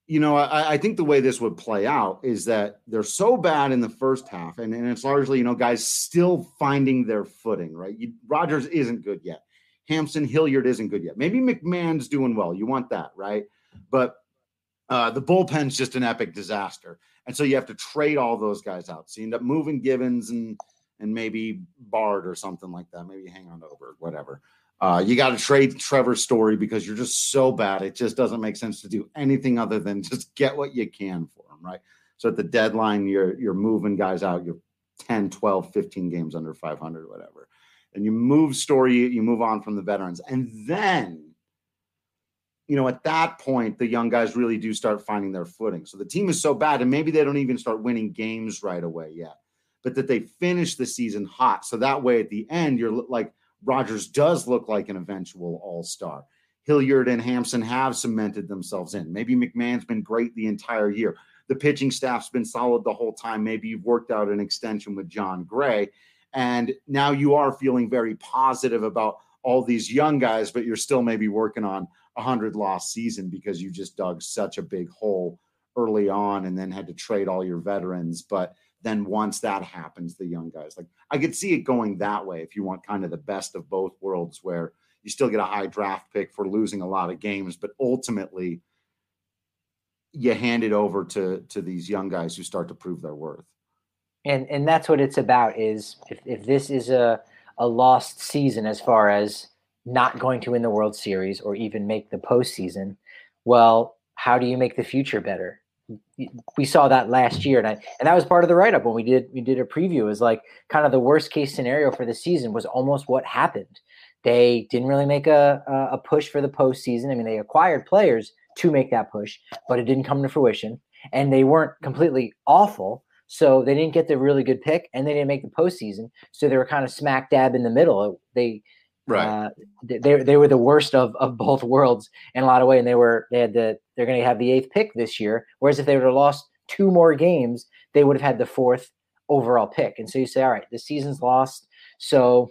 you know, I, I think the way this would play out is that they're so bad in the first half, and, and it's largely, you know, guys still finding their footing, right? You, Rodgers isn't good yet. Hampson, Hilliard isn't good yet. Maybe McMahon's doing well. You want that, right? But uh, the bullpen's just an epic disaster. And so you have to trade all those guys out. So you end up moving Givens and and maybe Bard or something like that. Maybe hang on to Oberg, whatever. Uh, you got to trade Trevor Story because you're just so bad. It just doesn't make sense to do anything other than just get what you can for them, right? So at the deadline, you're you're moving guys out. You're ten, twelve, fifteen games under five hundred, whatever. And you move Story, you move on from the veterans. And then, you know, at that point, the young guys really do start finding their footing. So the team is so bad, and maybe they don't even start winning games right away yet, but that they finish the season hot. So that way at the end, you're like, Rodgers does look like an eventual all-star. Hilliard and Hampson have cemented themselves in. Maybe McMahon's been great the entire year. The pitching staff's been solid the whole time. Maybe you've worked out an extension with John Gray, and now you are feeling very positive about all these young guys, but you're still maybe working on a hundred-loss season because you just dug such a big hole early on and then had to trade all your veterans. But then once that happens, the young guys, like I could see it going that way if you want kind of the best of both worlds where you still get a high draft pick for losing a lot of games, but ultimately you hand it over to, to these young guys who start to prove their worth. And and that's what it's about is if, if this is a, a lost season as far as not going to win the World Series or even make the postseason, well, how do you make the future better? We saw that last year, and I, and that was part of the write-up when we did we did a preview. Is like kind of the worst case scenario for the season was almost what happened. They didn't really make a a push for the postseason. I mean, they acquired players to make that push, but it didn't come to fruition. And they weren't completely awful, so they didn't get the really good pick, and they didn't make the postseason. So they were kind of smack dab in the middle. They Right. Uh, they they were the worst of, of both worlds in a lot of ways, and they were they had the they're going to have the eighth pick this year. Whereas if they would have lost two more games, they would have had the fourth overall pick. And so you say, all right, the season's lost, so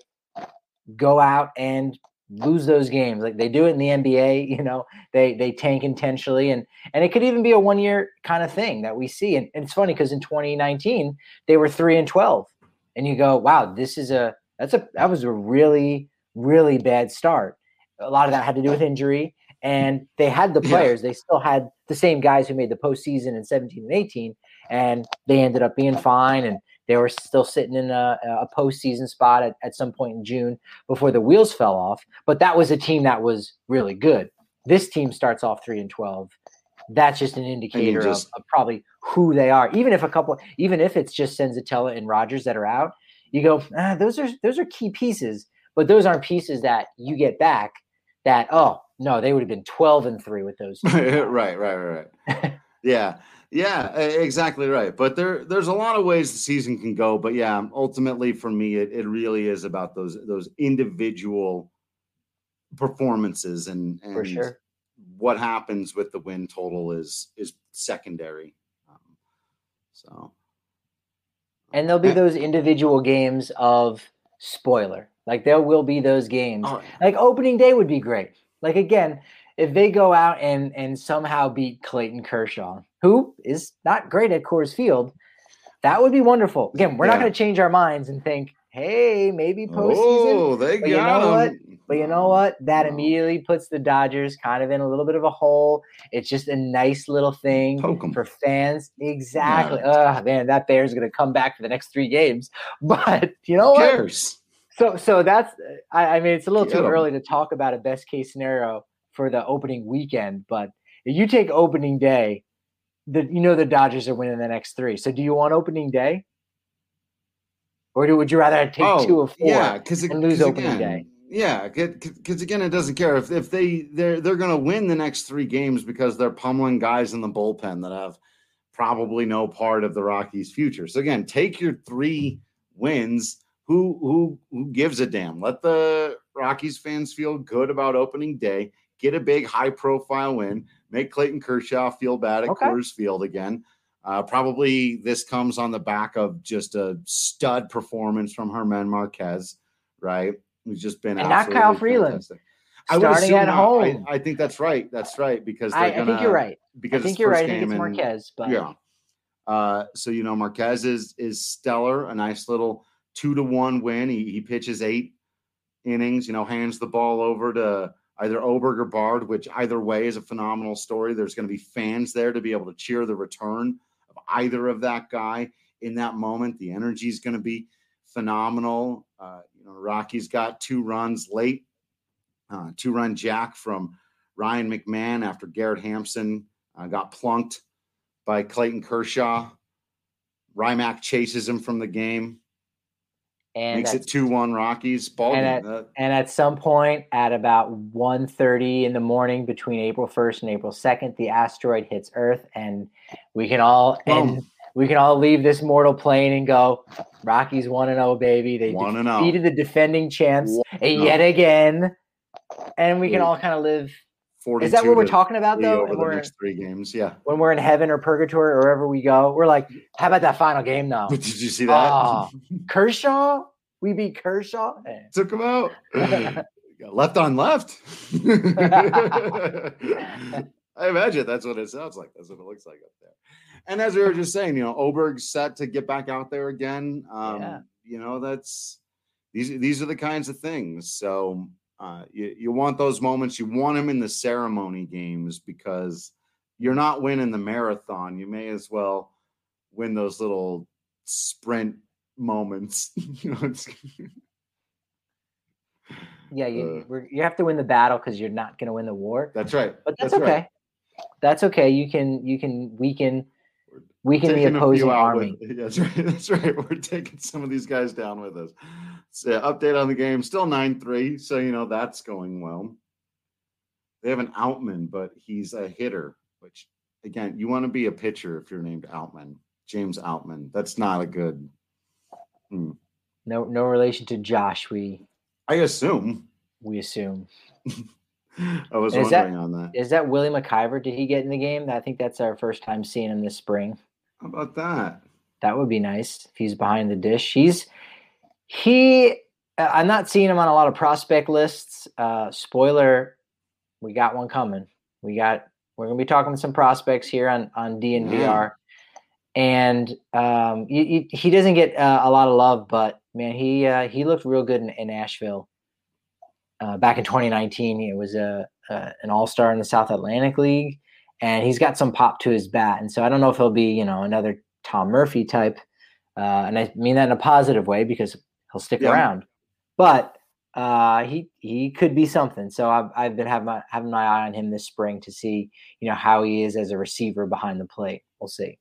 go out and lose those games. Like they do it in the N B A, you know, they they tank intentionally, and and it could even be a one year kind of thing that we see. And, and it's funny because in twenty nineteen they were three and twelve, and you go, wow, this is a that's a that was a really really bad start. A lot of that had to do with injury, and they had the players. Yeah. They still had the same guys who made the postseason in seventeen and eighteen, and they ended up being fine, and they were still sitting in a, a postseason spot at, at some point in June before the wheels fell off. But that was a team that was really good. This team starts off three and twelve. That's just an indicator just, of, of probably who they are. Even if a couple, even if it's just Senzatella and Rodgers that are out, you go, ah, those are those are key pieces. But those aren't pieces that you get back that, oh, no, they would have been twelve and three with those. right, right, right, right. yeah, yeah, exactly right. But there, there's a lot of ways the season can go. But, yeah, ultimately for me, it, it really is about those those individual performances. And, and for sure. What happens with the win total is is secondary. Um, so, And there'll be those individual games of spoiler. Like there will be those games. Oh. Like opening day would be great. Like again, if they go out and and somehow beat Clayton Kershaw, who is not great at Coors Field, that would be wonderful. Again, we're yeah. not going to change our minds and think, hey, maybe postseason. Oh, they but got you know them. what? But you know what? That immediately puts the Dodgers kind of in a little bit of a hole. It's just a nice little thing for fans. Exactly. Yeah. Oh man, that Bear's going to come back for the next three games. But you know Who what? cares? So, so that's. I, I mean, it's a little Get too 'em. early to talk about a best case scenario for the opening weekend. But if you take opening day, the you know the Dodgers are winning the next three. So, do you want opening day, or do, would you rather take oh, two or four yeah, because and lose opening again, day? Yeah, because again, it doesn't care if if they they're they're going to win the next three games because they're pummeling guys in the bullpen that have probably no part of the Rockies' future. So again, take your three wins. Who who who gives a damn? Let the Rockies fans feel good about opening day. Get a big high profile win. Make Clayton Kershaw feel bad at Okay. Coors Field again. Uh, probably this comes on the back of just a stud performance from Germán Marquez, right? Who's just been And not absolutely Kyle Freeland. fantastic. I would starting assume at not. home. I, I think that's right. That's right because they're I, gonna, I think you're right. Because I think it's you're first right. I think it's game and- Marquez, but Yeah. Uh, so you know Marquez is is stellar. A nice little two to one win. He he pitches eight innings. You know, hands the ball over to either Oberg or Bard, which either way is a phenomenal story. There's going to be fans there to be able to cheer the return of either of that guy in that moment. The energy is going to be phenomenal. Uh, you know, Rockies got two runs late, uh, two run jack from Ryan McMahon after Garrett Hampson uh, got plunked by Clayton Kershaw. Rymack chases him from the game. and Makes it that's- two one Rockies. Ball and game. at, Uh, and at some point at about one thirty in the morning between April first and April second, the asteroid hits Earth, and we can all Boom. and we can all leave this mortal plane and go, Rockies one and oh, baby. They one and oh. defeated the defending champs One and yet oh. again. And we can Yeah. all kind of live. forty-two Is that what we're to talking about, three though? over And the we're- next three games? Yeah. When we're in heaven or purgatory or wherever we go, we're like, how about that final game now? But did you see that? Oh, Kershaw? We beat Kershaw? Eh. Took him out. Left on left. I imagine that's what it sounds like. That's what it looks like up there. And as we were just saying, you know, Oberg's set to get back out there again. Um, Yeah. You know, that's these these are the kinds of things. So uh, you you want those moments. You want them in the ceremony games because you're not winning the marathon. You may as well win those little sprint moments. You know, it's Yeah, you Uh, we're, you have to win the battle because you're not going to win the war. that's right. But that's, right. okay. That's okay. You can you can weaken weaken the Taking a few opposing out army. with- that's right. That's right. We're taking some of these guys down with us. So, update on the game. Still nine three. So, you know, that's going well. They have an Outman, but he's a hitter, which, again, you want to be a pitcher if you're named Outman. James Outman. That's not a good. Hmm. No no relation to Josh. We I assume. we assume. I was Is that- wondering on that. Is that Willie McIver? Did he get in the game? I think that's our first time seeing him this spring. How about that? That would be nice if he's behind the dish. He's he. uh, I'm not seeing him on a lot of prospect lists. Uh, spoiler: we got one coming. We got. We're gonna be talking to some prospects here on on D N V R, and um, you, you, he doesn't get uh, a lot of love, but man, he uh, he looked real good in, in Nashville. Uh, back in twenty nineteen, he was a, a an all-star in the South Atlantic League, and he's got some pop to his bat. And so I don't know if he'll be, you know, another Tom Murphy type, uh, and I mean that in a positive way because he'll stick Yeah. around. But uh, he he could be something. So I've I've been having my having my eye on him this spring to see, you know, how he is as a receiver behind the plate. We'll see.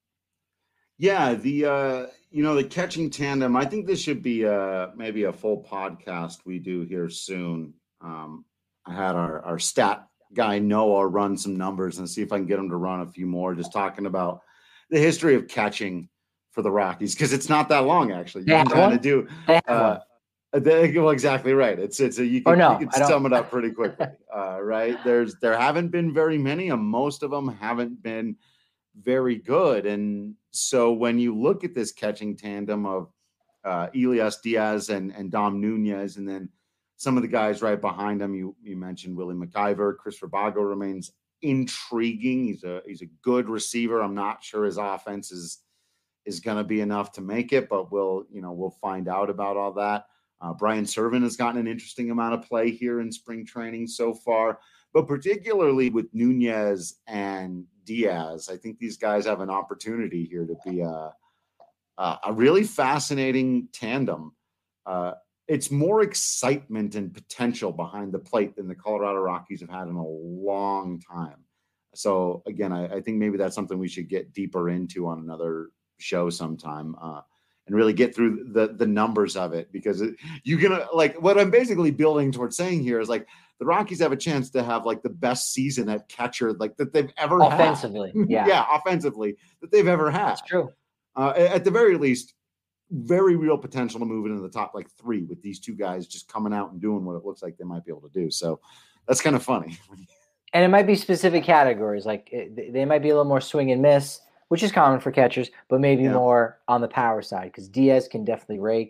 Yeah, the uh, you know, the catching tandem. I think this should be uh maybe a full podcast we do here soon. Um, I had our our stat guy Noah run some numbers and see if I can get him to run a few more, just talking about the history of catching for the Rockies because it's not that long actually. You They can have kind one? of do. They have Uh, one. they, well, exactly right. It's it's a you Or can, no, you I can don't- sum it up pretty quickly, uh, right? There's there haven't been very many, and most of them haven't been very good. And so when you look at this catching tandem of uh, Elias Diaz and and Dom Nunez, and then some of the guys right behind him, you you mentioned Willie McIver, Chris Rabago remains intriguing. He's a he's a good receiver. I'm not sure his offense is is going to be enough to make it, but we'll you know we'll find out about all that. Uh, Brian Servin has gotten an interesting amount of play here in spring training so far, but particularly with Nunez and Diaz, I think these guys have an opportunity here to be a a, a really fascinating tandem. Uh, it's more excitement and potential behind the plate than the Colorado Rockies have had in a long time. So again, I, I think maybe that's something we should get deeper into on another show sometime, uh, and really get through the the numbers of it, because it, you can uh, like what I'm basically building towards saying here is like the Rockies have a chance to have like the best season at catcher like that they've ever Offensively, had. yeah. yeah, offensively that they've ever had. That's true. Uh, at the very least, very real potential to move into the top like three with these two guys just coming out and doing what it looks like they might be able to do. So that's kind of funny. And it might be specific categories. Like it, they might be a little more swing and miss, which is common for catchers, but maybe Yeah. more on the power side because Diaz can definitely rake.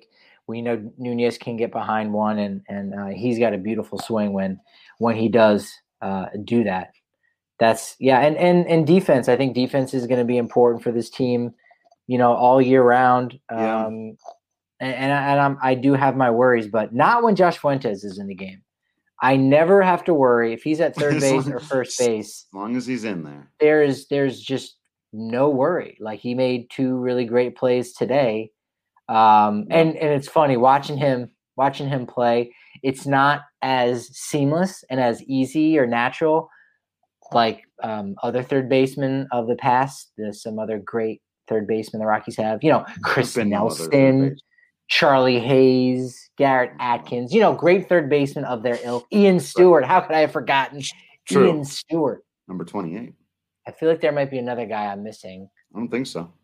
We know Nunez can get behind one, and and uh, he's got a beautiful swing when when he does uh, do that. That's yeah, and and and defense. I think defense is going to be important for this team, you know, all year round. Um, Yeah. and and, I, and I'm, I do have my worries, but not when Josh Fuentes is in the game. I never have to worry if he's at third base or first base. As long as he's in there, there's there's just no worry. Like, he made two really great plays today, um, and and it's funny watching him watching him play. It's not as seamless and as easy or natural like um, other third basemen of the past. There's some other great third basemen the Rockies have. You know, Chris Nelson, Charlie Hayes, Garrett Atkins. You know, great third basemen of their ilk. Ian Stewart. How could I have forgotten True. Ian Stewart? Number twenty-eight. I feel like there might be another guy I'm missing. I don't think so.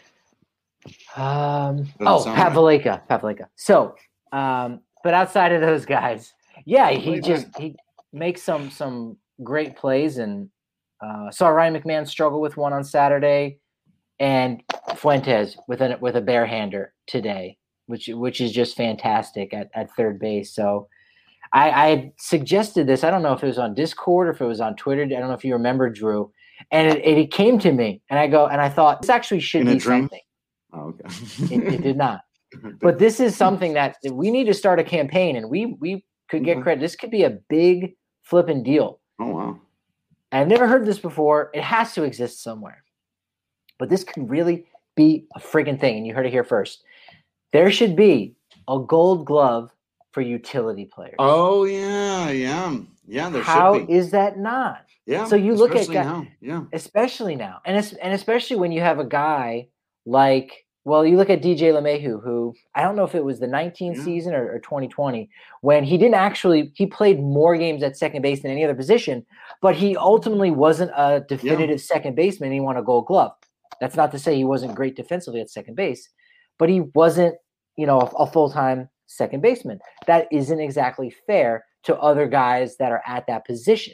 Um, Doesn't oh, sound Pat right. Valaika. Pat Valaika. So, um, but outside of those guys, yeah, he Wait, just wait. he makes some some great plays, and uh, saw Ryan McMahon struggle with one on Saturday, and Fuentes with a with a barehander today, which which is just fantastic at, at third base. So I, I had suggested this. I don't know if it was on Discord or if it was on Twitter. I don't know if you remember, Drew. And it, it, it came to me, and I go, and I thought, this actually should In a be dream? something. Oh, okay. It, it did not. But this is something that we need to start a campaign, and we we could get Okay. credit. This could be a big flipping deal. Oh, wow. I've never heard this before. It has to exist somewhere. But this could really be a friggin' thing, and you heard it here first. There should be a gold glove for utility players. Oh, yeah, yeah. Yeah, there How should be. is that not? Yeah. so you look at especially guy- now. Yeah. Especially now. And es- and especially when you have a guy like, well, you look at D J LeMahieu, who I don't know if it was the nineteen Yeah. season or, or twenty twenty, when he didn't actually, he played more games at second base than any other position, but he ultimately wasn't a definitive second baseman. He won a gold glove. That's not to say he wasn't great defensively at second base, but he wasn't, you know, a, a full-time second baseman. That isn't exactly fair to other guys that are at that position.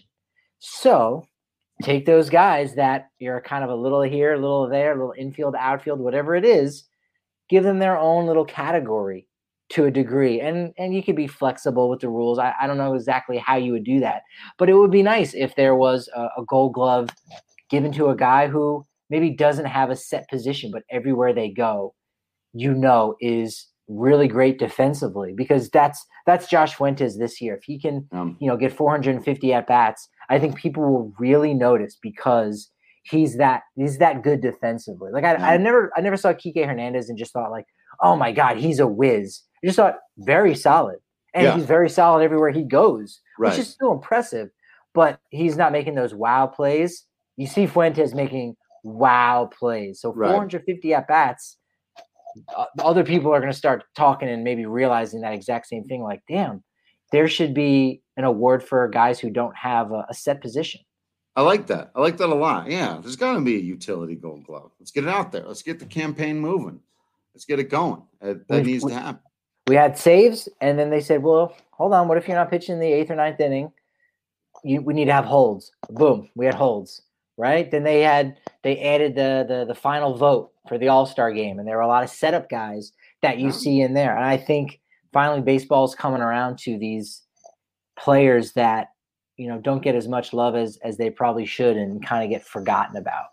So take those guys that you're kind of a little here, a little there, a little infield, outfield, whatever it is, give them their own little category to a degree. And and you could be flexible with the rules. I, I don't know exactly how you would do that, but it would be nice if there was a, a gold glove given to a guy who maybe doesn't have a set position, but everywhere they go, you know, is really great defensively, because that's that's Josh Fuentes this year. If he can, Um, you know, get four hundred fifty at bats, I think people will really notice, because he's that he's that good defensively. Like I, Yeah. I never I never saw Kike Hernandez and just thought like, oh my God, he's a whiz. I just thought very solid, and Yeah. he's very solid everywhere he goes, Right. which is still impressive. But he's not making those wow plays. You see Fuentes making wow plays. So Right. four hundred fifty at bats. Uh, other people are going to start talking and maybe realizing that exact same thing. Like, damn, there should be an award for guys who don't have a, a set position. I like that. I like that a lot. Yeah, there's got to be a utility gold glove. Let's get it out there. Let's get the campaign moving. Let's get it going. That, that We- needs we- to happen. We had saves, and then they said, well, hold on. What if you're not pitching in the eighth or ninth inning? You, we need to have holds. Boom, we had holds, right? Then they had they added the the, the final vote for the All-Star game, and there were a lot of setup guys that you Yeah. see in there. And I think finally baseball's coming around to these players that, you know, don't get as much love as as they probably should, and kind of get forgotten about.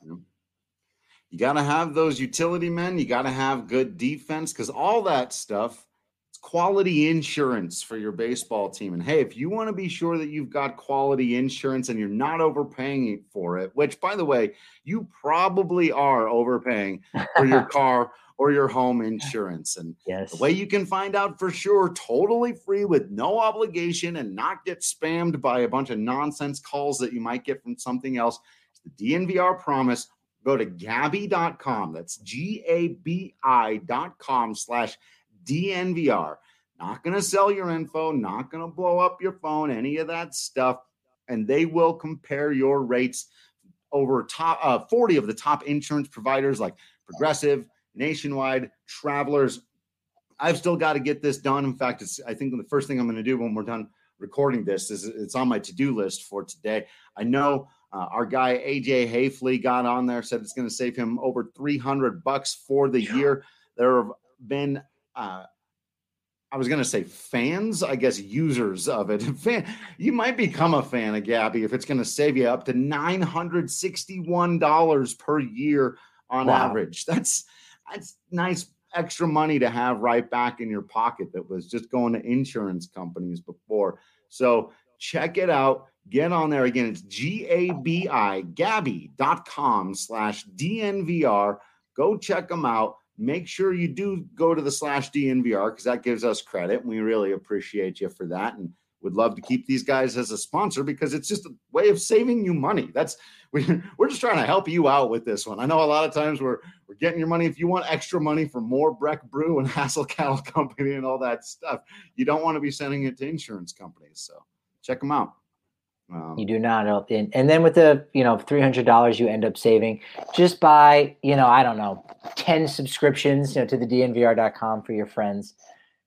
You got to have those utility men. You got to have good defense, because all that stuff, it's quality insurance for your baseball team. And hey, if you want to be sure that you've got quality insurance and you're not overpaying for it, which, by the way, you probably are overpaying for your car or your home insurance. And Yes. the way you can find out for sure, totally free with no obligation, and not get spammed by a bunch of nonsense calls that you might get from something else, is the D N V R promise. Go to Gabi dot com. That's G A B I dot com slash D N V R. Not going to sell your info, not going to blow up your phone, any of that stuff. And they will compare your rates over top uh, forty of the top insurance providers like Progressive, Nationwide, Travelers. I've still got to get this done. In fact, it's I think the first thing I'm going to do when we're done recording this is it's on my to-do list for today. I know uh, our guy A J Hayfley got on there, said it's going to save him over three hundred bucks for the year. There have been uh, I was going to say fans, I guess users of it. Fan, you might become a fan of Gabby if it's going to save you up to nine hundred sixty-one dollars per year on Wow. average. That's that's nice extra money to have right back in your pocket that was just going to insurance companies before. So check it out. Get on there. Again, it's G A B I, Gabby.com slash DNVR. Go check them out. Make sure you do go to the slash D N V R because that gives us credit. We really appreciate you for that and would love to keep these guys as a sponsor because it's just a way of saving you money. That's we, we're just trying to help you out with this one. I know a lot of times we're we're getting your money. If you want extra money for more Breck Brew and Hassel Cattle Company and all that stuff, you don't want to be sending it to insurance companies. So check them out. Um, You do not. And, and then with the, you know, three hundred dollars you end up saving just by, you know, I don't know, ten subscriptions, you know, to the D N V R dot com for your friends.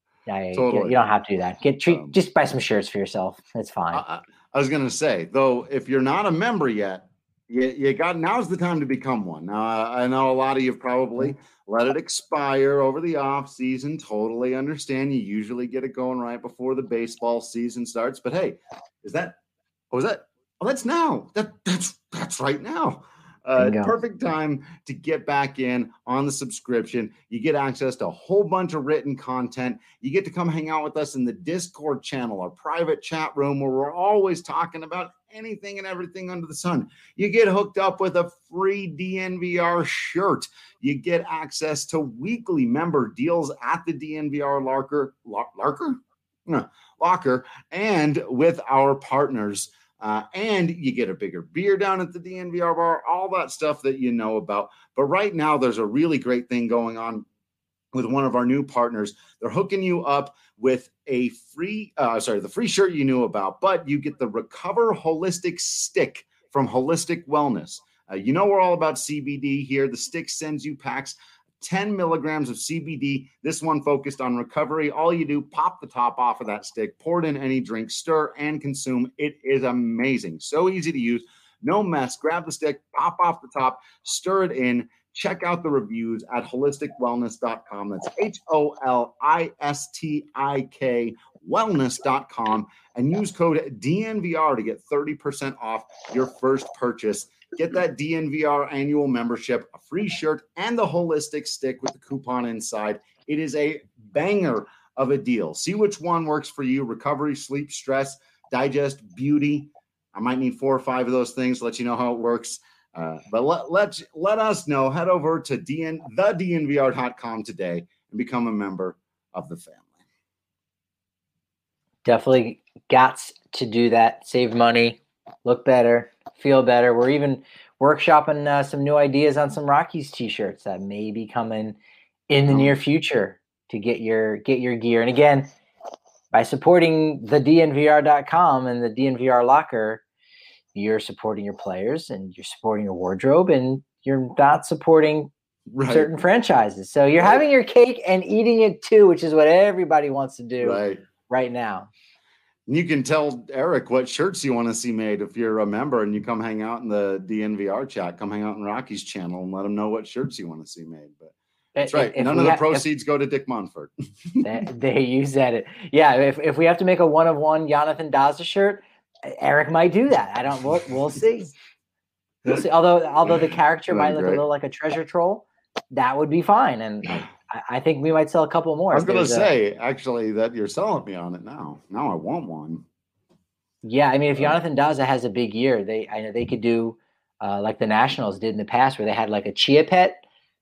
I, Totally. you, you don't have to do that. Get treat, Um, just buy some shirts for yourself. It's fine. I, I was going to say, though, if you're not a member yet, you, you got now's the time to become one. Now, I know a lot of you have probably let it expire over the off season. Totally understand. You usually get it going right before the baseball season starts. But hey, is that Oh, is that? Oh, that's now. That that's that's right now. Uh, perfect time to get back in on the subscription. You get access to a whole bunch of written content. You get to come hang out with us in the Discord channel, our private chat room, where we're always talking about anything and everything under the sun. You get hooked up with a free D N V R shirt. You get access to weekly member deals at the D N V R Larker. Larker? No, Locker, and with our partners. Uh, and you get a bigger beer down at the D N V R bar, all that stuff that you know about. But right now, there's a really great thing going on with one of our new partners. They're hooking you up with a free, uh, sorry, the free shirt you knew about, but you get the Recover Holistic Stick from Holistic Wellness. Uh, you know we're all about C B D here. The stick sends you packs ten milligrams of C B D. This one focused on recovery. All you do, pop the top off of that stick, pour it in any drink, stir and consume. It is amazing. So easy to use. No mess. Grab the stick, pop off the top, stir it in. Check out the reviews at holistic wellness dot com. That's H O L I S T I K wellness dot com and use code D N V R to get thirty percent off your first purchase. Get that D N V R annual membership, a free shirt, and the holistic stick with the coupon inside. It is a banger of a deal. See which one works for you. Recovery, sleep, stress, digest, beauty. I might need four or five of those things to let you know how it works. Uh, but let, let, let us know. Head over to D N, the D N V R dot com today and become a member of the family. Definitely got to do that. Save money, look better, feel better. We're even workshopping uh, some new ideas on some Rockies t-shirts that may be coming in the near future to get your get your gear. And again, by supporting the D N V R dot com and the D N V R Locker, you're supporting your players and you're supporting your wardrobe and you're not supporting right. certain franchises. So you're right. having your cake and eating it too, which is what everybody wants to do right, right now. You can tell Eric what shirts you want to see made if you're a member and you come hang out in the D N V R chat, come hang out in Rocky's channel and let him know what shirts you want to see made. But that's right. If None of the ha- proceeds if, go to Dick Monfort. they, they use that. Yeah. If, if we have to make a one of one Jonathan Daza shirt, Eric might do that. I don't, we'll, we'll see. We'll see. Although, although the character might look great. a little like a treasure troll, that would be fine. And I, I think we might sell a couple more. I was going to say, a, actually, that you're selling me on it now. Now I want one. Yeah, I mean, if Jonathan Daza has a big year, they I know they could do uh, like the Nationals did in the past, where they had like a chia pet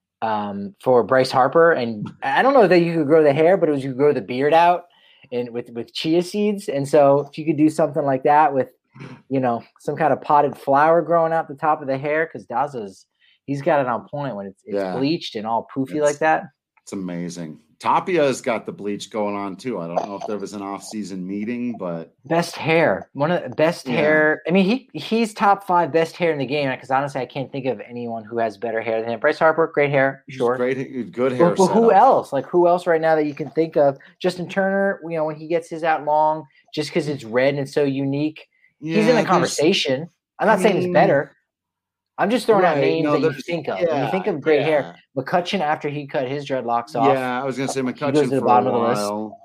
um, for Bryce Harper, and I don't know that you could grow the hair, but it was you could grow the beard out and with with chia seeds. And so if you could do something like that with, you know, some kind of potted flower growing out the top of the hair, because Daza's he's got it on point when it's, it's yeah. bleached and all poofy it's, like that. It's amazing. Tapia's got the bleach going on too. I don't know if there was an off-season meeting, but best hair, one of the best yeah. hair. I mean, he he's top five best hair in the game. Because honestly, I can't think of anyone who has better hair than him. Bryce Harper, great hair, sure, great, good hair. But, but who else? Like who else right now that you can think of? Justin Turner, you know, when he gets his out long, just because it's red and it's so unique, yeah, he's in the conversation. I'm not I saying mean, he's better. I'm just throwing right. out names no, that you think of. Yeah, when you think of great yeah. hair, McCutchen after he cut his dreadlocks off. Yeah, I was going to say McCutchen for a while.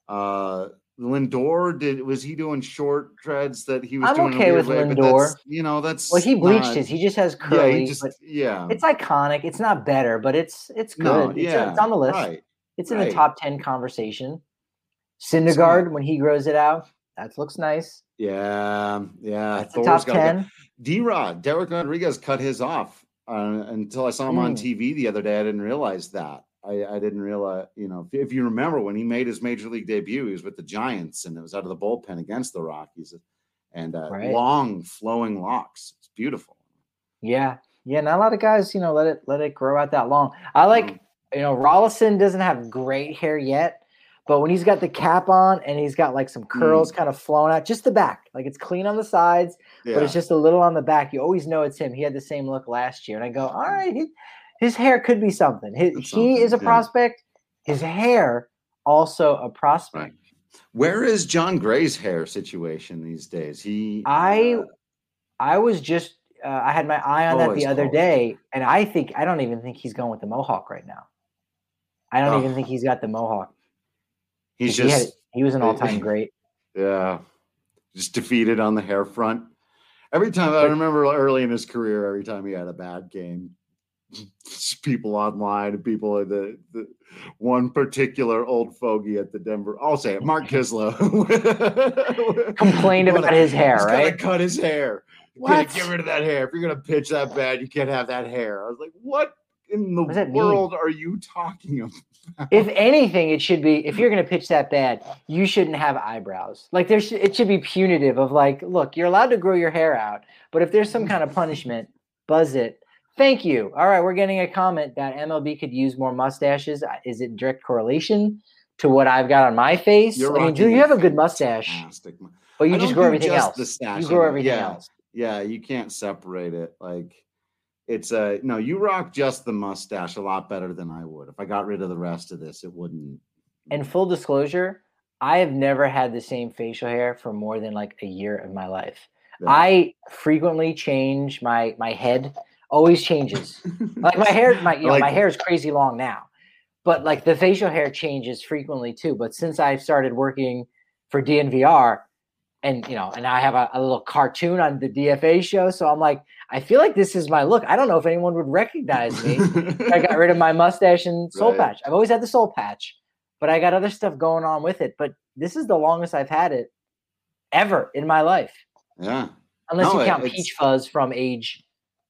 Uh, Lindor did was he doing short dreads that he was I'm doing? okay a weird with way, but Lindor. that's, you know, that's Well, he bleached not, his. He just has curly. Yeah, he just but yeah. It's iconic. It's not better, but it's it's good. No, it's, yeah, it's on the list. Right, it's in right. the top ten conversation. Syndergaard, when he grows it out, that looks nice. Yeah, yeah. That's the top ten. D-Rod, Derek Rodriguez cut his off uh, until I saw him mm. on T V the other day. I didn't realize that. I, I didn't realize, you know, if, if you remember when he made his major league debut, he was with the Giants and it was out of the bullpen against the Rockies, and uh, right. long flowing locks. It's beautiful. Yeah, yeah. Not a lot of guys, you know, let it let it grow out that long. I like, mm. you know, Rollison doesn't have great hair yet. But when he's got the cap on and he's got like some curls mm. kind of flowing out, just the back, like it's clean on the sides, yeah. but it's just a little on the back. You always know it's him. He had the same look last year. And I go, all right, he, his hair could be something. His, he something, is a yeah. prospect. His hair, also a prospect. Right. Where is John Gray's hair situation these days? He, I, uh, I was just, uh, I had my eye on that the other close. day. And I think, I don't even think he's going with the Mohawk right now. I don't oh. even think he's got the Mohawk. He's he just had, he was an all-time great. Yeah. Just defeated on the hair front. Every time I remember early in his career, every time he had a bad game, people online and people in the, the one particular old fogey at the Denver, I'll say it, Mark Kislow complained about his hair, he's right? Gotta cut his hair. You can't get rid of that hair. If you're gonna pitch that bad, you can't have that hair. I was like, what in the world mean? Are you talking about? If anything, it should be, if you're going to pitch that bad, you shouldn't have eyebrows. Like there, sh- it should be punitive of like, look, you're allowed to grow your hair out, but if there's some kind of punishment, buzz it. Thank you. All right, we're getting a comment that M L B could use more mustaches. Is it direct correlation to what I've got on my face? You're I mean, do you have a good mustache? Fantastic. But you just grow everything just else. The stash, you grow everything yeah. else. Yeah, you can't separate it. Like, it's a uh, no, you rock just the mustache a lot better than I would. If I got rid of the rest of this, it wouldn't. And full disclosure, I have never had the same facial hair for more than like a year of my life. Yeah. I frequently change my my head, always changes. Like my hair, my you know, like my hair is crazy long now. But like the facial hair changes frequently too. But since I've started working for D N V R, and you know, and I have a, a little cartoon on the D F A show, so I'm like, I feel like this is my look. I don't know if anyone would recognize me. I got rid of my mustache and soul right. patch. I've always had the soul patch, but I got other stuff going on with it. But this is the longest I've had it ever in my life. Yeah. Unless no, you count it's... Peach Fuzz from age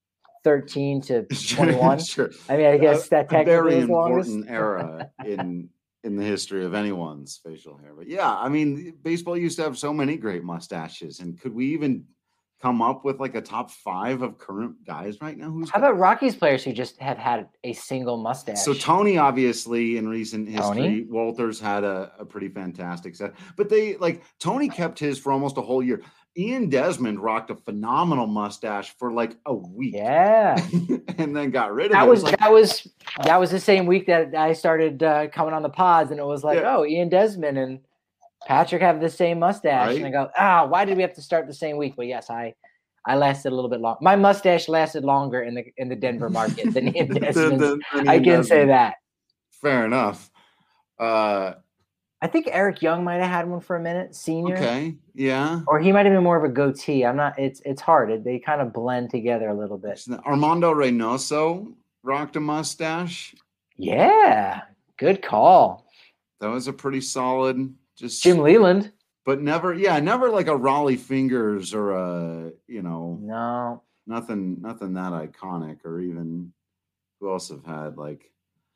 thirteen to twenty-one. Sure. I mean, I guess that technically very is longest. important era in in the history of anyone's facial hair. But yeah, I mean, baseball used to have so many great mustaches. And could we even come up with like a top five of current guys right now? Who's How got... about Rockies players who just have had a single mustache? So Tony, obviously, in recent history, Tony? Walters had a, a pretty fantastic set. But they like Tony kept his for almost a whole year. Ian Desmond rocked a phenomenal mustache for like a week. Yeah. And then got rid of that it. Was, it was like, that was that was the same week that I started uh, coming on the pods, and it was like, yeah. oh, Ian Desmond and Patrick have the same mustache. Right? And I go, ah, why did we have to start the same week? But yes, I I lasted a little bit long. My mustache lasted longer in the in the Denver market than Ian Desmond. the, the, the I can Desmond. say that. Fair enough. Uh I think Eric Young might have had one for a minute, senior. Okay, yeah. Or he might have been more of a goatee. I'm not. It's it's hard. It, they kind of blend together a little bit. Armando Reynoso rocked a mustache. Yeah, good call. That was a pretty solid. Just Jim Leland, but never. Yeah, never like a Raleigh Fingers or a you know. No, nothing. Nothing that iconic, or even who else have had like.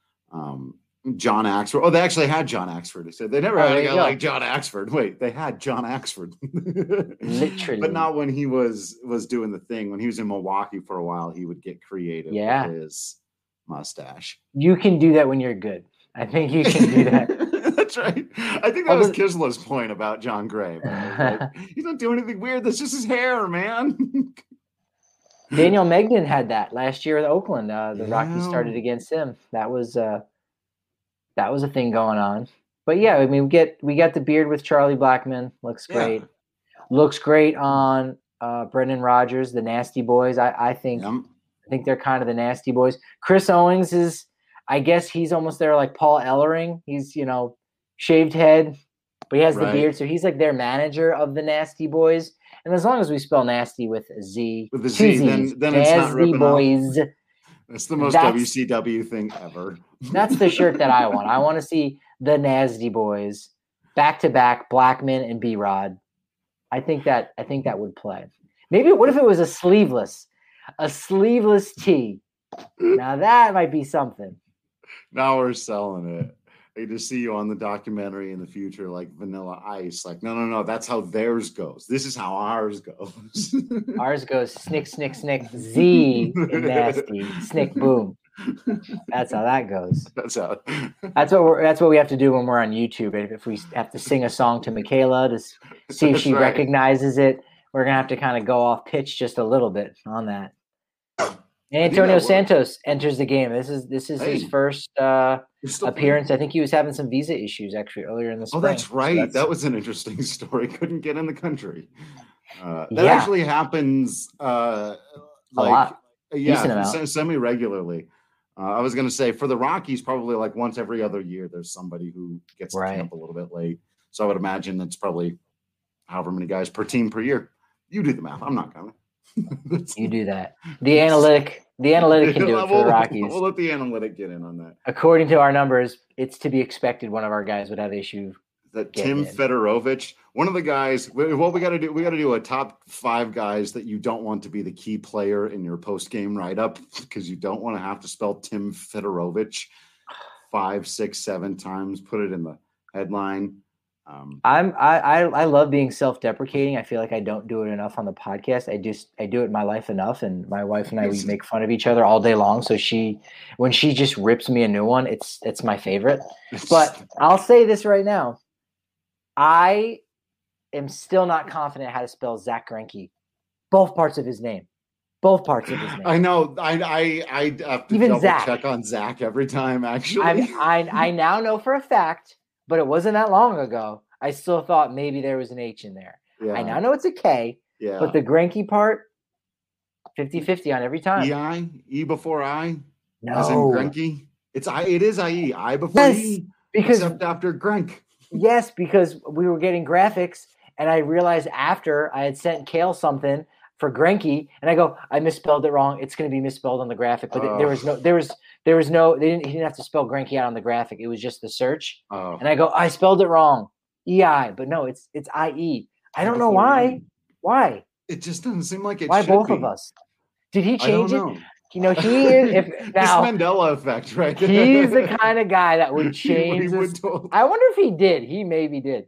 um John Axford. Oh, they actually had John Axford. They said they never oh, had a guy go. like John Axford. Wait, they had John Axford. Literally. But not when he was was doing the thing. When he was in Milwaukee for a while, he would get creative yeah. with his mustache. You can do that when you're good. I think you can do that. That's right. I think that Although, was Kislow's point about John Gray. Like, he's not doing anything weird. That's just his hair, man. Daniel Megden had that last year at Oakland. Uh, the yeah. Rockies started against him. That was uh, that was a thing going on. But yeah, I mean, we get we got the beard with Charlie Blackmon. Looks great. Yeah. Looks great on uh, Brendan Rodgers, the Nasty Boys. I, I think yep. I think they're kind of the Nasty Boys. Chris Owings is, I guess he's almost there like Paul Ellering. He's, you know, shaved head, but he has Right. the beard, so he's like their manager of the Nasty Boys. And as long as we spell nasty with a Z, With a two Z, then- Zs, then it's not Nasty ripping off. Boys. It's the most That's- W C W thing ever. That's the shirt that I want. I want to see the Nasty Boys back to back, Blackman and B Rod. I think that I think that would play. Maybe what if it was a sleeveless, a sleeveless tee? Now that might be something. Now we're selling it. They just see you on the documentary in the future, like Vanilla Ice. Like, no, no, no, that's how theirs goes. This is how ours goes. Ours goes snick, snick, snick, Z and nasty, snick, boom. That's how that goes. That's how. That's what we're. That's what we have to do when we're on YouTube. If, if we have to sing a song to Michaela to s- see if That's she right. recognizes it, we're gonna have to kind of go off pitch just a little bit on that. And think Antonio that works. Santos enters the game. This is this is his Hey. first uh, You're still appearance. I think he was having some visa issues actually earlier in the Oh, spring. that's So right. that's- That was an interesting story. Couldn't get in the country. Uh, that Yeah. actually happens uh, A like lot. yeah, Decent amount. se- semi-regularly. Uh, I was going to say for the Rockies, probably like once every other year, there's somebody who gets Right. to camp a little bit late. So I would imagine it's probably however many guys per team per year. You do the math. I'm not going to. You do that. The analytic, the analytic can do it for We'll- the Rockies. We'll let the analytic get in on that. According to our numbers, it's to be expected one of our guys would have issue. That Get Tim in. Fedorovich, one of the guys. wh- What we got to do? We got to do a top five guys that you don't want to be the key player in your post game write up because you don't want to have to spell Tim Fedorovich five, six, seven times. Put it in the headline. Um, I'm I, I I love being self-deprecating. I feel like I don't do it enough on the podcast. I just I do it in my life enough, and my wife and I we Yes. make fun of each other all day long. So she, when she just rips me a new one, it's it's my favorite. But I'll say this right now, I am still not confident how to spell Zach Greinke. Both parts of his name, both parts of his name. I know. I I I have to Even double Zach. check on Zach every time. Actually, I'm, I I now know for a fact, but it wasn't that long ago. I still thought maybe there was an H in there. yeah, I now know it's a K, yeah. but the Greinke part, fifty-fifty on every time. E I E before I. As in No, Greinke. It's I. It is I E I before Yes, E. because Except after Grenk. yes, because we were getting graphics, and I realized after I had sent Kale something for Greinke, and I go, I misspelled it wrong. It's going to be misspelled on the graphic, but there was no, there was, there was no, they didn't, he didn't have to spell Greinke out on the graphic. It was just the search, Oh. and I go, I spelled it wrong, E I, but no, it's it's I E. I don't know Before why. E. Why? It just doesn't seem like it. Why should both be. of us? Did he I don't change it? know. You know, he is. If This now Mandela effect, right? he's the kind of guy that would He- change. he this- would totally- I wonder if he did. He maybe did.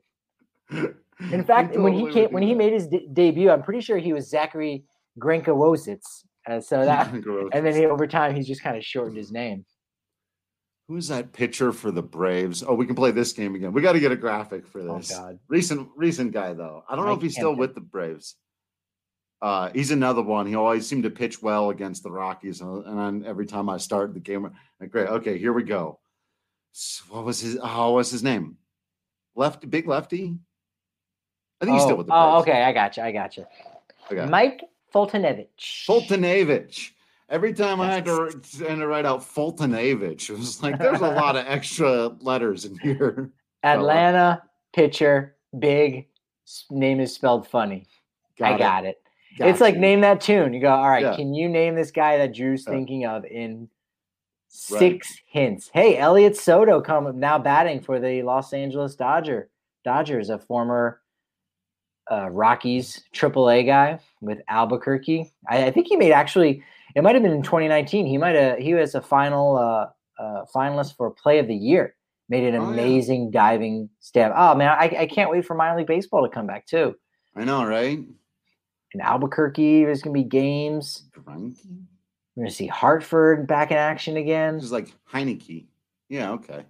In fact, when he totally came, would when do he that. made his de- debut, I'm pretty sure he was Zachary Grenka-Wozitz. Uh, so that, Gross. and then he, over time, he's just kind of shortened his name. Who's that pitcher for the Braves? Oh, we can play this game again. We got to get a graphic for Oh this. God, Recent, recent guy though. I don't know Mike if he's still Hampton. with the Braves. Uh, he's another one. He always seemed to pitch well against the Rockies, and and then every time I start the game, I'm like, great. Okay, here we go. S- What was his? Oh, what's his name? Lefty, big lefty. I think he's still oh, with the oh, Braves. okay, I got you. I got you. Okay. Mike Fultonevich. Fultonavich. Every time I had to, had to write out Fultonavich, it was like there's a lot of extra letters in here. Atlanta pitcher, big. s- Name is spelled funny. I got it. It's like you. name that tune. You go, all right, Yeah. can you name this guy that Drew's Yeah. thinking of in six hints? Hey, Elliot Soto come now batting for the Los Angeles Dodger. Dodgers, a former uh, Rockies triple A guy with Albuquerque. I, I think he made actually, it might have been in twenty nineteen. He might have, he was a final uh, uh, finalist for Play of the Year. Made an Oh, yeah. amazing diving stab. Oh, man, I, I can't wait for minor league baseball to come back, too. I know, right? In Albuquerque, there's going to be games. Greinke? We're going to see Hartford back in action again. This is like Heineke. Yeah, okay.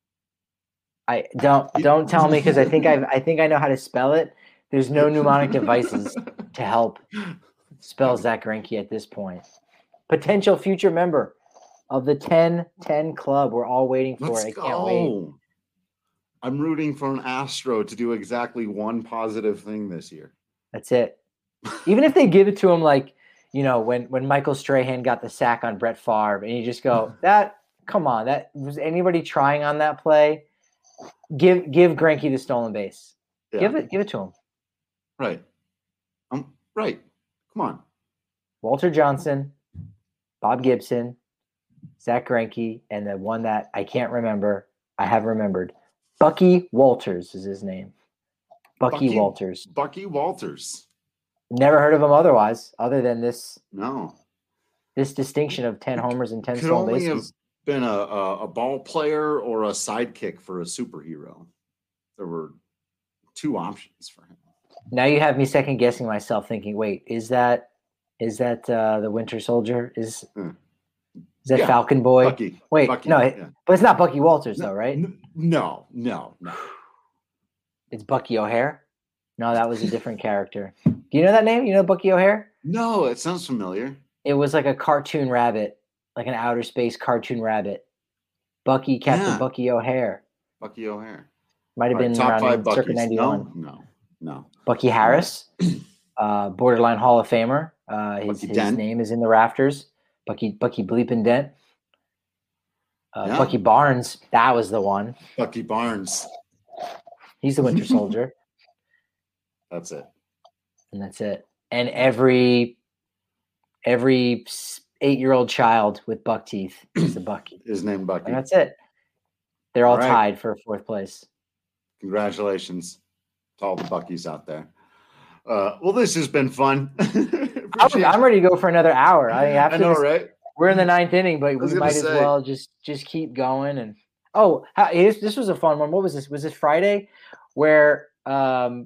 I don't don't tell me because I think I I think I know how to spell it. There's no mnemonic devices to help spell Zach Greinke at this point. Potential future member of the ten ten club. We're all waiting for Let's it. I can't wait. go. I'm rooting for an Astro to do exactly one positive thing this year. That's it. Even if they give it to him, like, you know, when when Michael Strahan got the sack on Brett Favre, and you just go, that come on, that was anybody trying on that play? Give give Greinke the stolen base. Yeah. Give it give it to him. Right. Um, right. Come on. Walter Johnson, Bob Gibson, Zach Greinke, and the one that I can't remember. I have remembered. Bucky Walters is his name. Bucky, Bucky Walters. Bucky Walters. Never heard of him otherwise, other than this No. this distinction of ten homers and ten Could stolen only have bases. been a, a, a ball player or a sidekick for a superhero. There were two options for him. Now you have me second guessing myself, thinking, "Wait, is that is that uh, the Winter Soldier? Is Hmm. is that Yeah, Falcon Boy? Bucky. Wait, Bucky, no, yeah. but it's not Bucky Walters, No, though, right? n- No, no, no. It's Bucky O'Hare. No, that was a different character. Do you know that name? You know Bucky O'Hare? No, it sounds familiar. It was like a cartoon rabbit, like an outer space cartoon rabbit. Bucky, Captain Yeah. Bucky O'Hare. Bucky O'Hare. Might have All right, been top around five in circa Buckies. ninety-one. No, no, no. Bucky Harris, uh, borderline Hall of Famer. Uh, his Bucky his Dent. name is in the rafters. Bucky Bucky Bleepin' Dent. Uh, Yeah. Bucky Barnes, that was the one. Bucky Barnes. He's the Winter Soldier, That's it. and that's it. And every every eight-year-old child with buck teeth is the Bucky, His name Bucky. and that's it. They're all All right. tied for fourth place. Congratulations to all the Buckies out there. Uh, well, this has been fun. I'm, Appreciate I'm you. ready to go for another hour. I mean, after I know, this, right? we're in the ninth inning, but was we gonna might as say. well just just keep going. And oh, how, this, this was a fun one. What was this? Was this Friday, where um,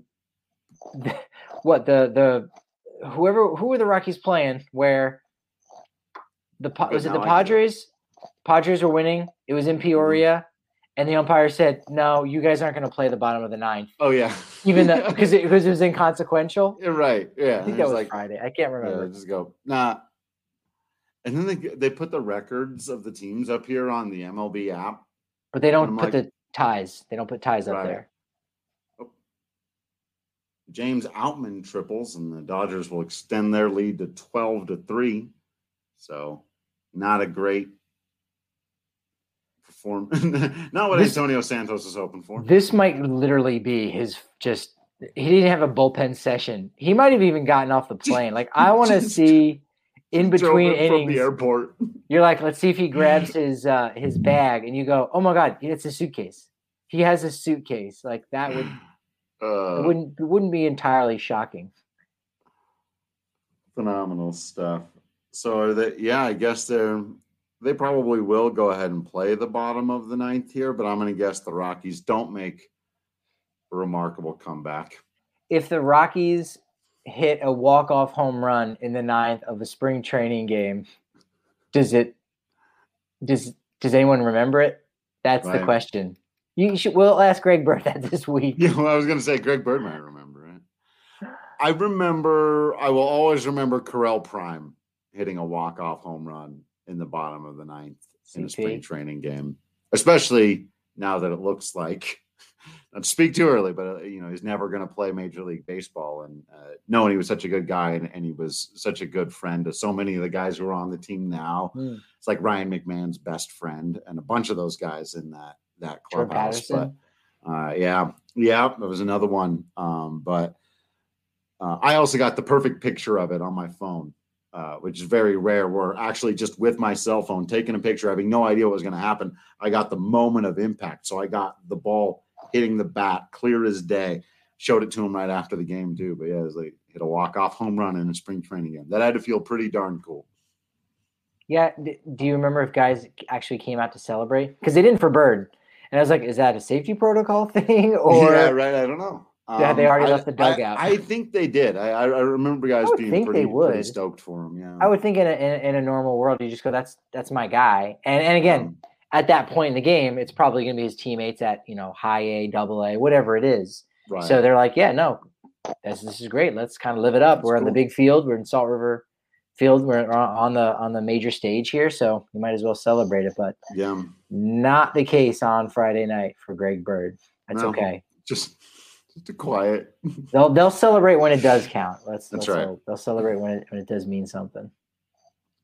what the the whoever who were the Rockies playing? Where the Pa- But was it the now I get it. Padres? Padres were winning. It was in Peoria, and the umpire said, "No, you guys aren't going to play the bottom of the ninth, Oh, yeah. even though because it, because it was inconsequential." You're right. Yeah. I think And that it's was like, Friday. I can't remember. yeah, just go, nah. And then they they put the records of the teams up here on the M L B app. But they don't I'm put like- the ties. They don't put ties up Right. there. James Outman triples, and the Dodgers will extend their lead to twelve to three. So, not a great perform. Not what This- Antonio Santos is hoping for. This might literally be his just. He didn't have a bullpen session. He might have even gotten off the plane. Like I want to Just see in Drove between in from innings. the airport. You're like, let's see if he grabs his uh, his bag, and you go, oh my god, it's a suitcase. He has a suitcase. Like that would Uh, it wouldn't it wouldn't be entirely shocking. phenomenal stuff. So are they? Yeah, I guess they're. They probably will go ahead and play the bottom of the ninth here, but I'm going to guess the Rockies don't make a remarkable comeback. If the Rockies hit a walk-off home run in the ninth of a spring training game, does it does does anyone remember it? That's the Right. question. You should we'll ask Greg Bird that this week. Yeah, well, I was going to say Greg Bird might remember it. I remember. I will always remember Correll Prime hitting a walk-off home run in the bottom of the ninth in a C P. spring training game, especially now that it looks like. Not to speak too early, but uh, you know he's never going to play Major League Baseball, and uh, knowing he was such a good guy and, and he was such a good friend to so many of the guys who are on the team now. Hmm. It's like Ryan McMahon's best friend and a bunch of those guys in that that Joe clubhouse. But Patterson. uh, yeah, yeah, that was another one. Um, but uh, I also got the perfect picture of it on my phone, uh, which is very rare. Where actually just with my cell phone taking a picture, having no idea what was going to happen, I got the moment of impact. So I got the ball hitting the bat clear as day. Showed it to him right after the game too. But yeah, it was like hit a walk off home run in a spring training game. That had to feel pretty darn cool. Yeah. D- do you remember if guys actually came out to celebrate? Because they didn't for Bird. And I was like, is that a safety protocol thing? Or yeah, right. I don't know. Yeah, they already I- left the dugout. I, I think they did. I, I I remember guys would being think pretty, they would. pretty stoked for him. Yeah, I would think in a, in a in a normal world, you just go, that's that's my guy. And and again, Um, at that point in the game, it's probably going to be his teammates at, you know, high A, double A, whatever it is. right. So they're like, yeah, no, this, this is great. Let's kind of live it up. That's We're on the cool. big field. We're in Salt River Field. We're on on the on the major stage here, so we might as well celebrate it. But yeah, not the case on Friday night for Greg Bird. That's No. okay. just just a quiet. They'll they'll celebrate when it does count. Let's, That's let's right. They'll, they'll celebrate when it when it does mean something.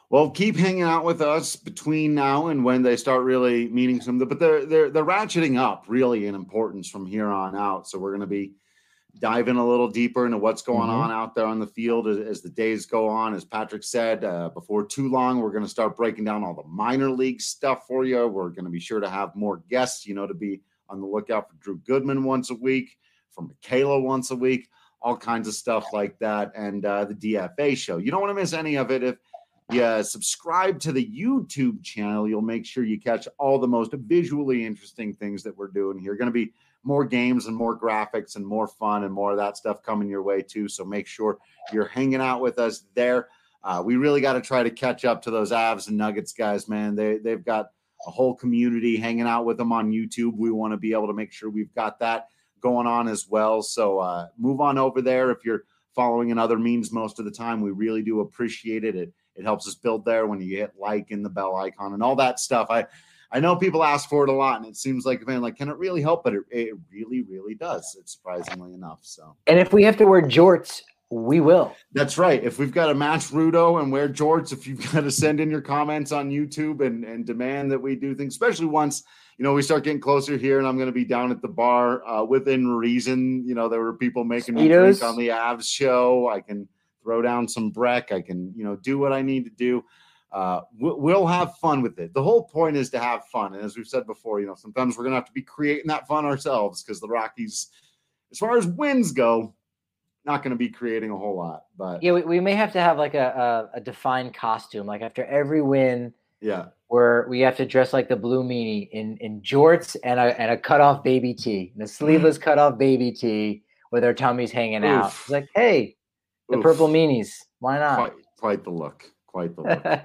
Well, keep hanging out with us between now and when they start really meaning some. But they're they're they're ratcheting up really in importance from here on out. So we're going to be diving a little deeper into what's going Mm-hmm. on out there on the field as, as the days go on. As Patrick said, uh, before too long, we're going to start breaking down all the minor league stuff for you. We're going to be sure to have more guests, you know, to be on the lookout for Drew Goodman once a week, for Michaela once a week, all kinds of stuff like that, and uh, the D F A show. You don't want to miss any of it. If you subscribe to the YouTube channel, you'll make sure you catch all the most visually interesting things that we're doing here. Going to be more games and more graphics and more fun and more of that stuff coming your way too. So make sure you're hanging out with us there. Uh, we really got to try to catch up to those Avs and Nuggets guys, man. They, they've got a whole community hanging out with them on YouTube. We want to be able to make sure we've got that going on as well. So uh, move on over there. If you're following in other means most of the time, we really do appreciate it. It It helps us build there when you hit like and the bell icon and all that stuff. I, I know people ask for it a lot, and it seems like, man, like, can it really help? But it, it really, really does. It's surprisingly enough. So, And if we have to wear jorts, we will. that's right. If we've got to match Rudo and wear jorts, if you've got to send in your comments on YouTube and, and demand that we do things, especially once, you know, we start getting closer here and I'm going to be down at the bar uh, within reason. You know, there were people making me drink on the Avs show. I can throw down some Breck. I can, you know, do what I need to do. Uh, we'll have fun with it. The whole point is to have fun. And as we've said before, you know, sometimes we're going to have to be creating that fun ourselves because the Rockies, as far as wins go, not going to be creating a whole lot. But yeah, we, we may have to have like a, a, a defined costume. Like after every win, yeah, where we have to dress like the Blue Meanie in, in jorts and a and a cutoff baby tee, and a sleeveless cutoff baby tee with our tummies hanging Oof. out. It's like, hey, the Oof. purple meanies. Why not? Quite, quite the look. Quite the look.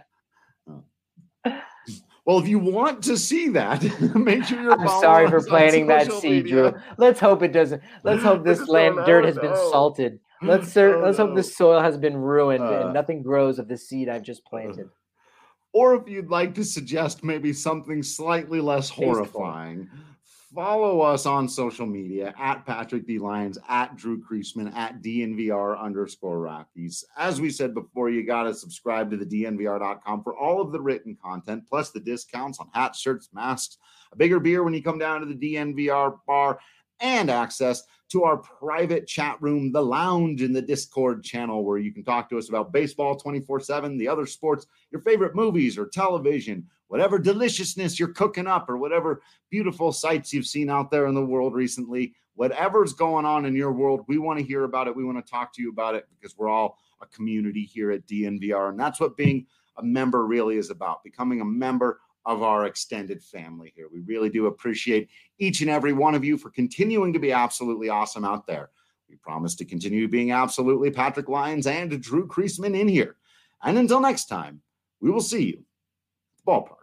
Well, if you want to see that, make sure you're I'm sorry for us on planting that social seed, media. Drew. Let's hope it doesn't. Let's hope this Just land don't dirt know, has been no. salted. Let's sir, Oh, let's no. hope this soil has been ruined Uh, and nothing grows of the seed I've just planted. Or if you'd like to suggest maybe something slightly less horrifying, follow us on social media at Patrick D. Lyons, at Drew Creasman, at D N V R underscore Rockies. As we said before, you got to subscribe to the D N V R dot com for all of the written content, plus the discounts on hats, shirts, masks, a bigger beer when you come down to the D N V R bar, and access to our private chat room, the lounge in the Discord channel, where you can talk to us about baseball twenty-four seven, the other sports, your favorite movies or television, whatever deliciousness you're cooking up or whatever beautiful sights you've seen out there in the world recently. Whatever's going on in your world, we want to hear about it. We want to talk to you about it because we're all a community here at D N V R. And that's what being a member really is about, becoming a member of our extended family here. We really do appreciate each and every one of you for continuing to be absolutely awesome out there. We promise to continue being absolutely Patrick Lyons and Drew Creasman in here. And until next time, we will see you at the ballpark.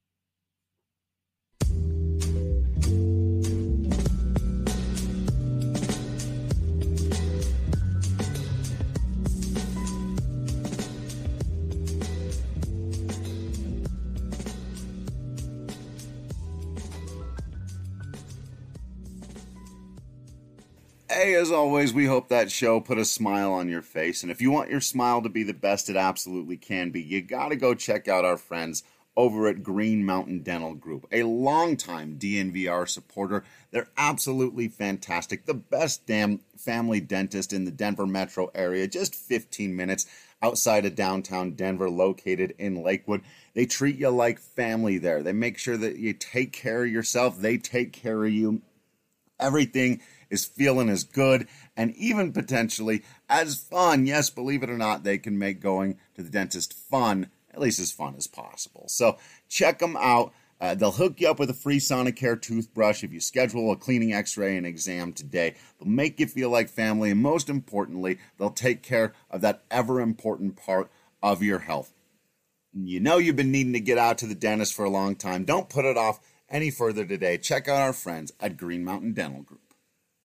Hey, as always, we hope that show put a smile on your face. And if you want your smile to be the best it absolutely can be, you got to go check out our friends over at Green Mountain Dental Group, a longtime D N V R supporter. They're absolutely fantastic. The best damn family dentist in the Denver metro area, just fifteen minutes outside of downtown Denver, located in Lakewood. They treat you like family there. They make sure that you take care of yourself. They take care of you. Everything is feeling as good and even potentially as fun. Yes, believe it or not, they can make going to the dentist fun, at least as fun as possible. So check them out. Uh, they'll hook you up with a free Sonicare toothbrush if you schedule a cleaning, x-ray, and exam today. They'll make you feel like family, and most importantly, they'll take care of that ever-important part of your health. You know you've been needing to get out to the dentist for a long time. Don't put it off any further today. Check out our friends at Green Mountain Dental Group.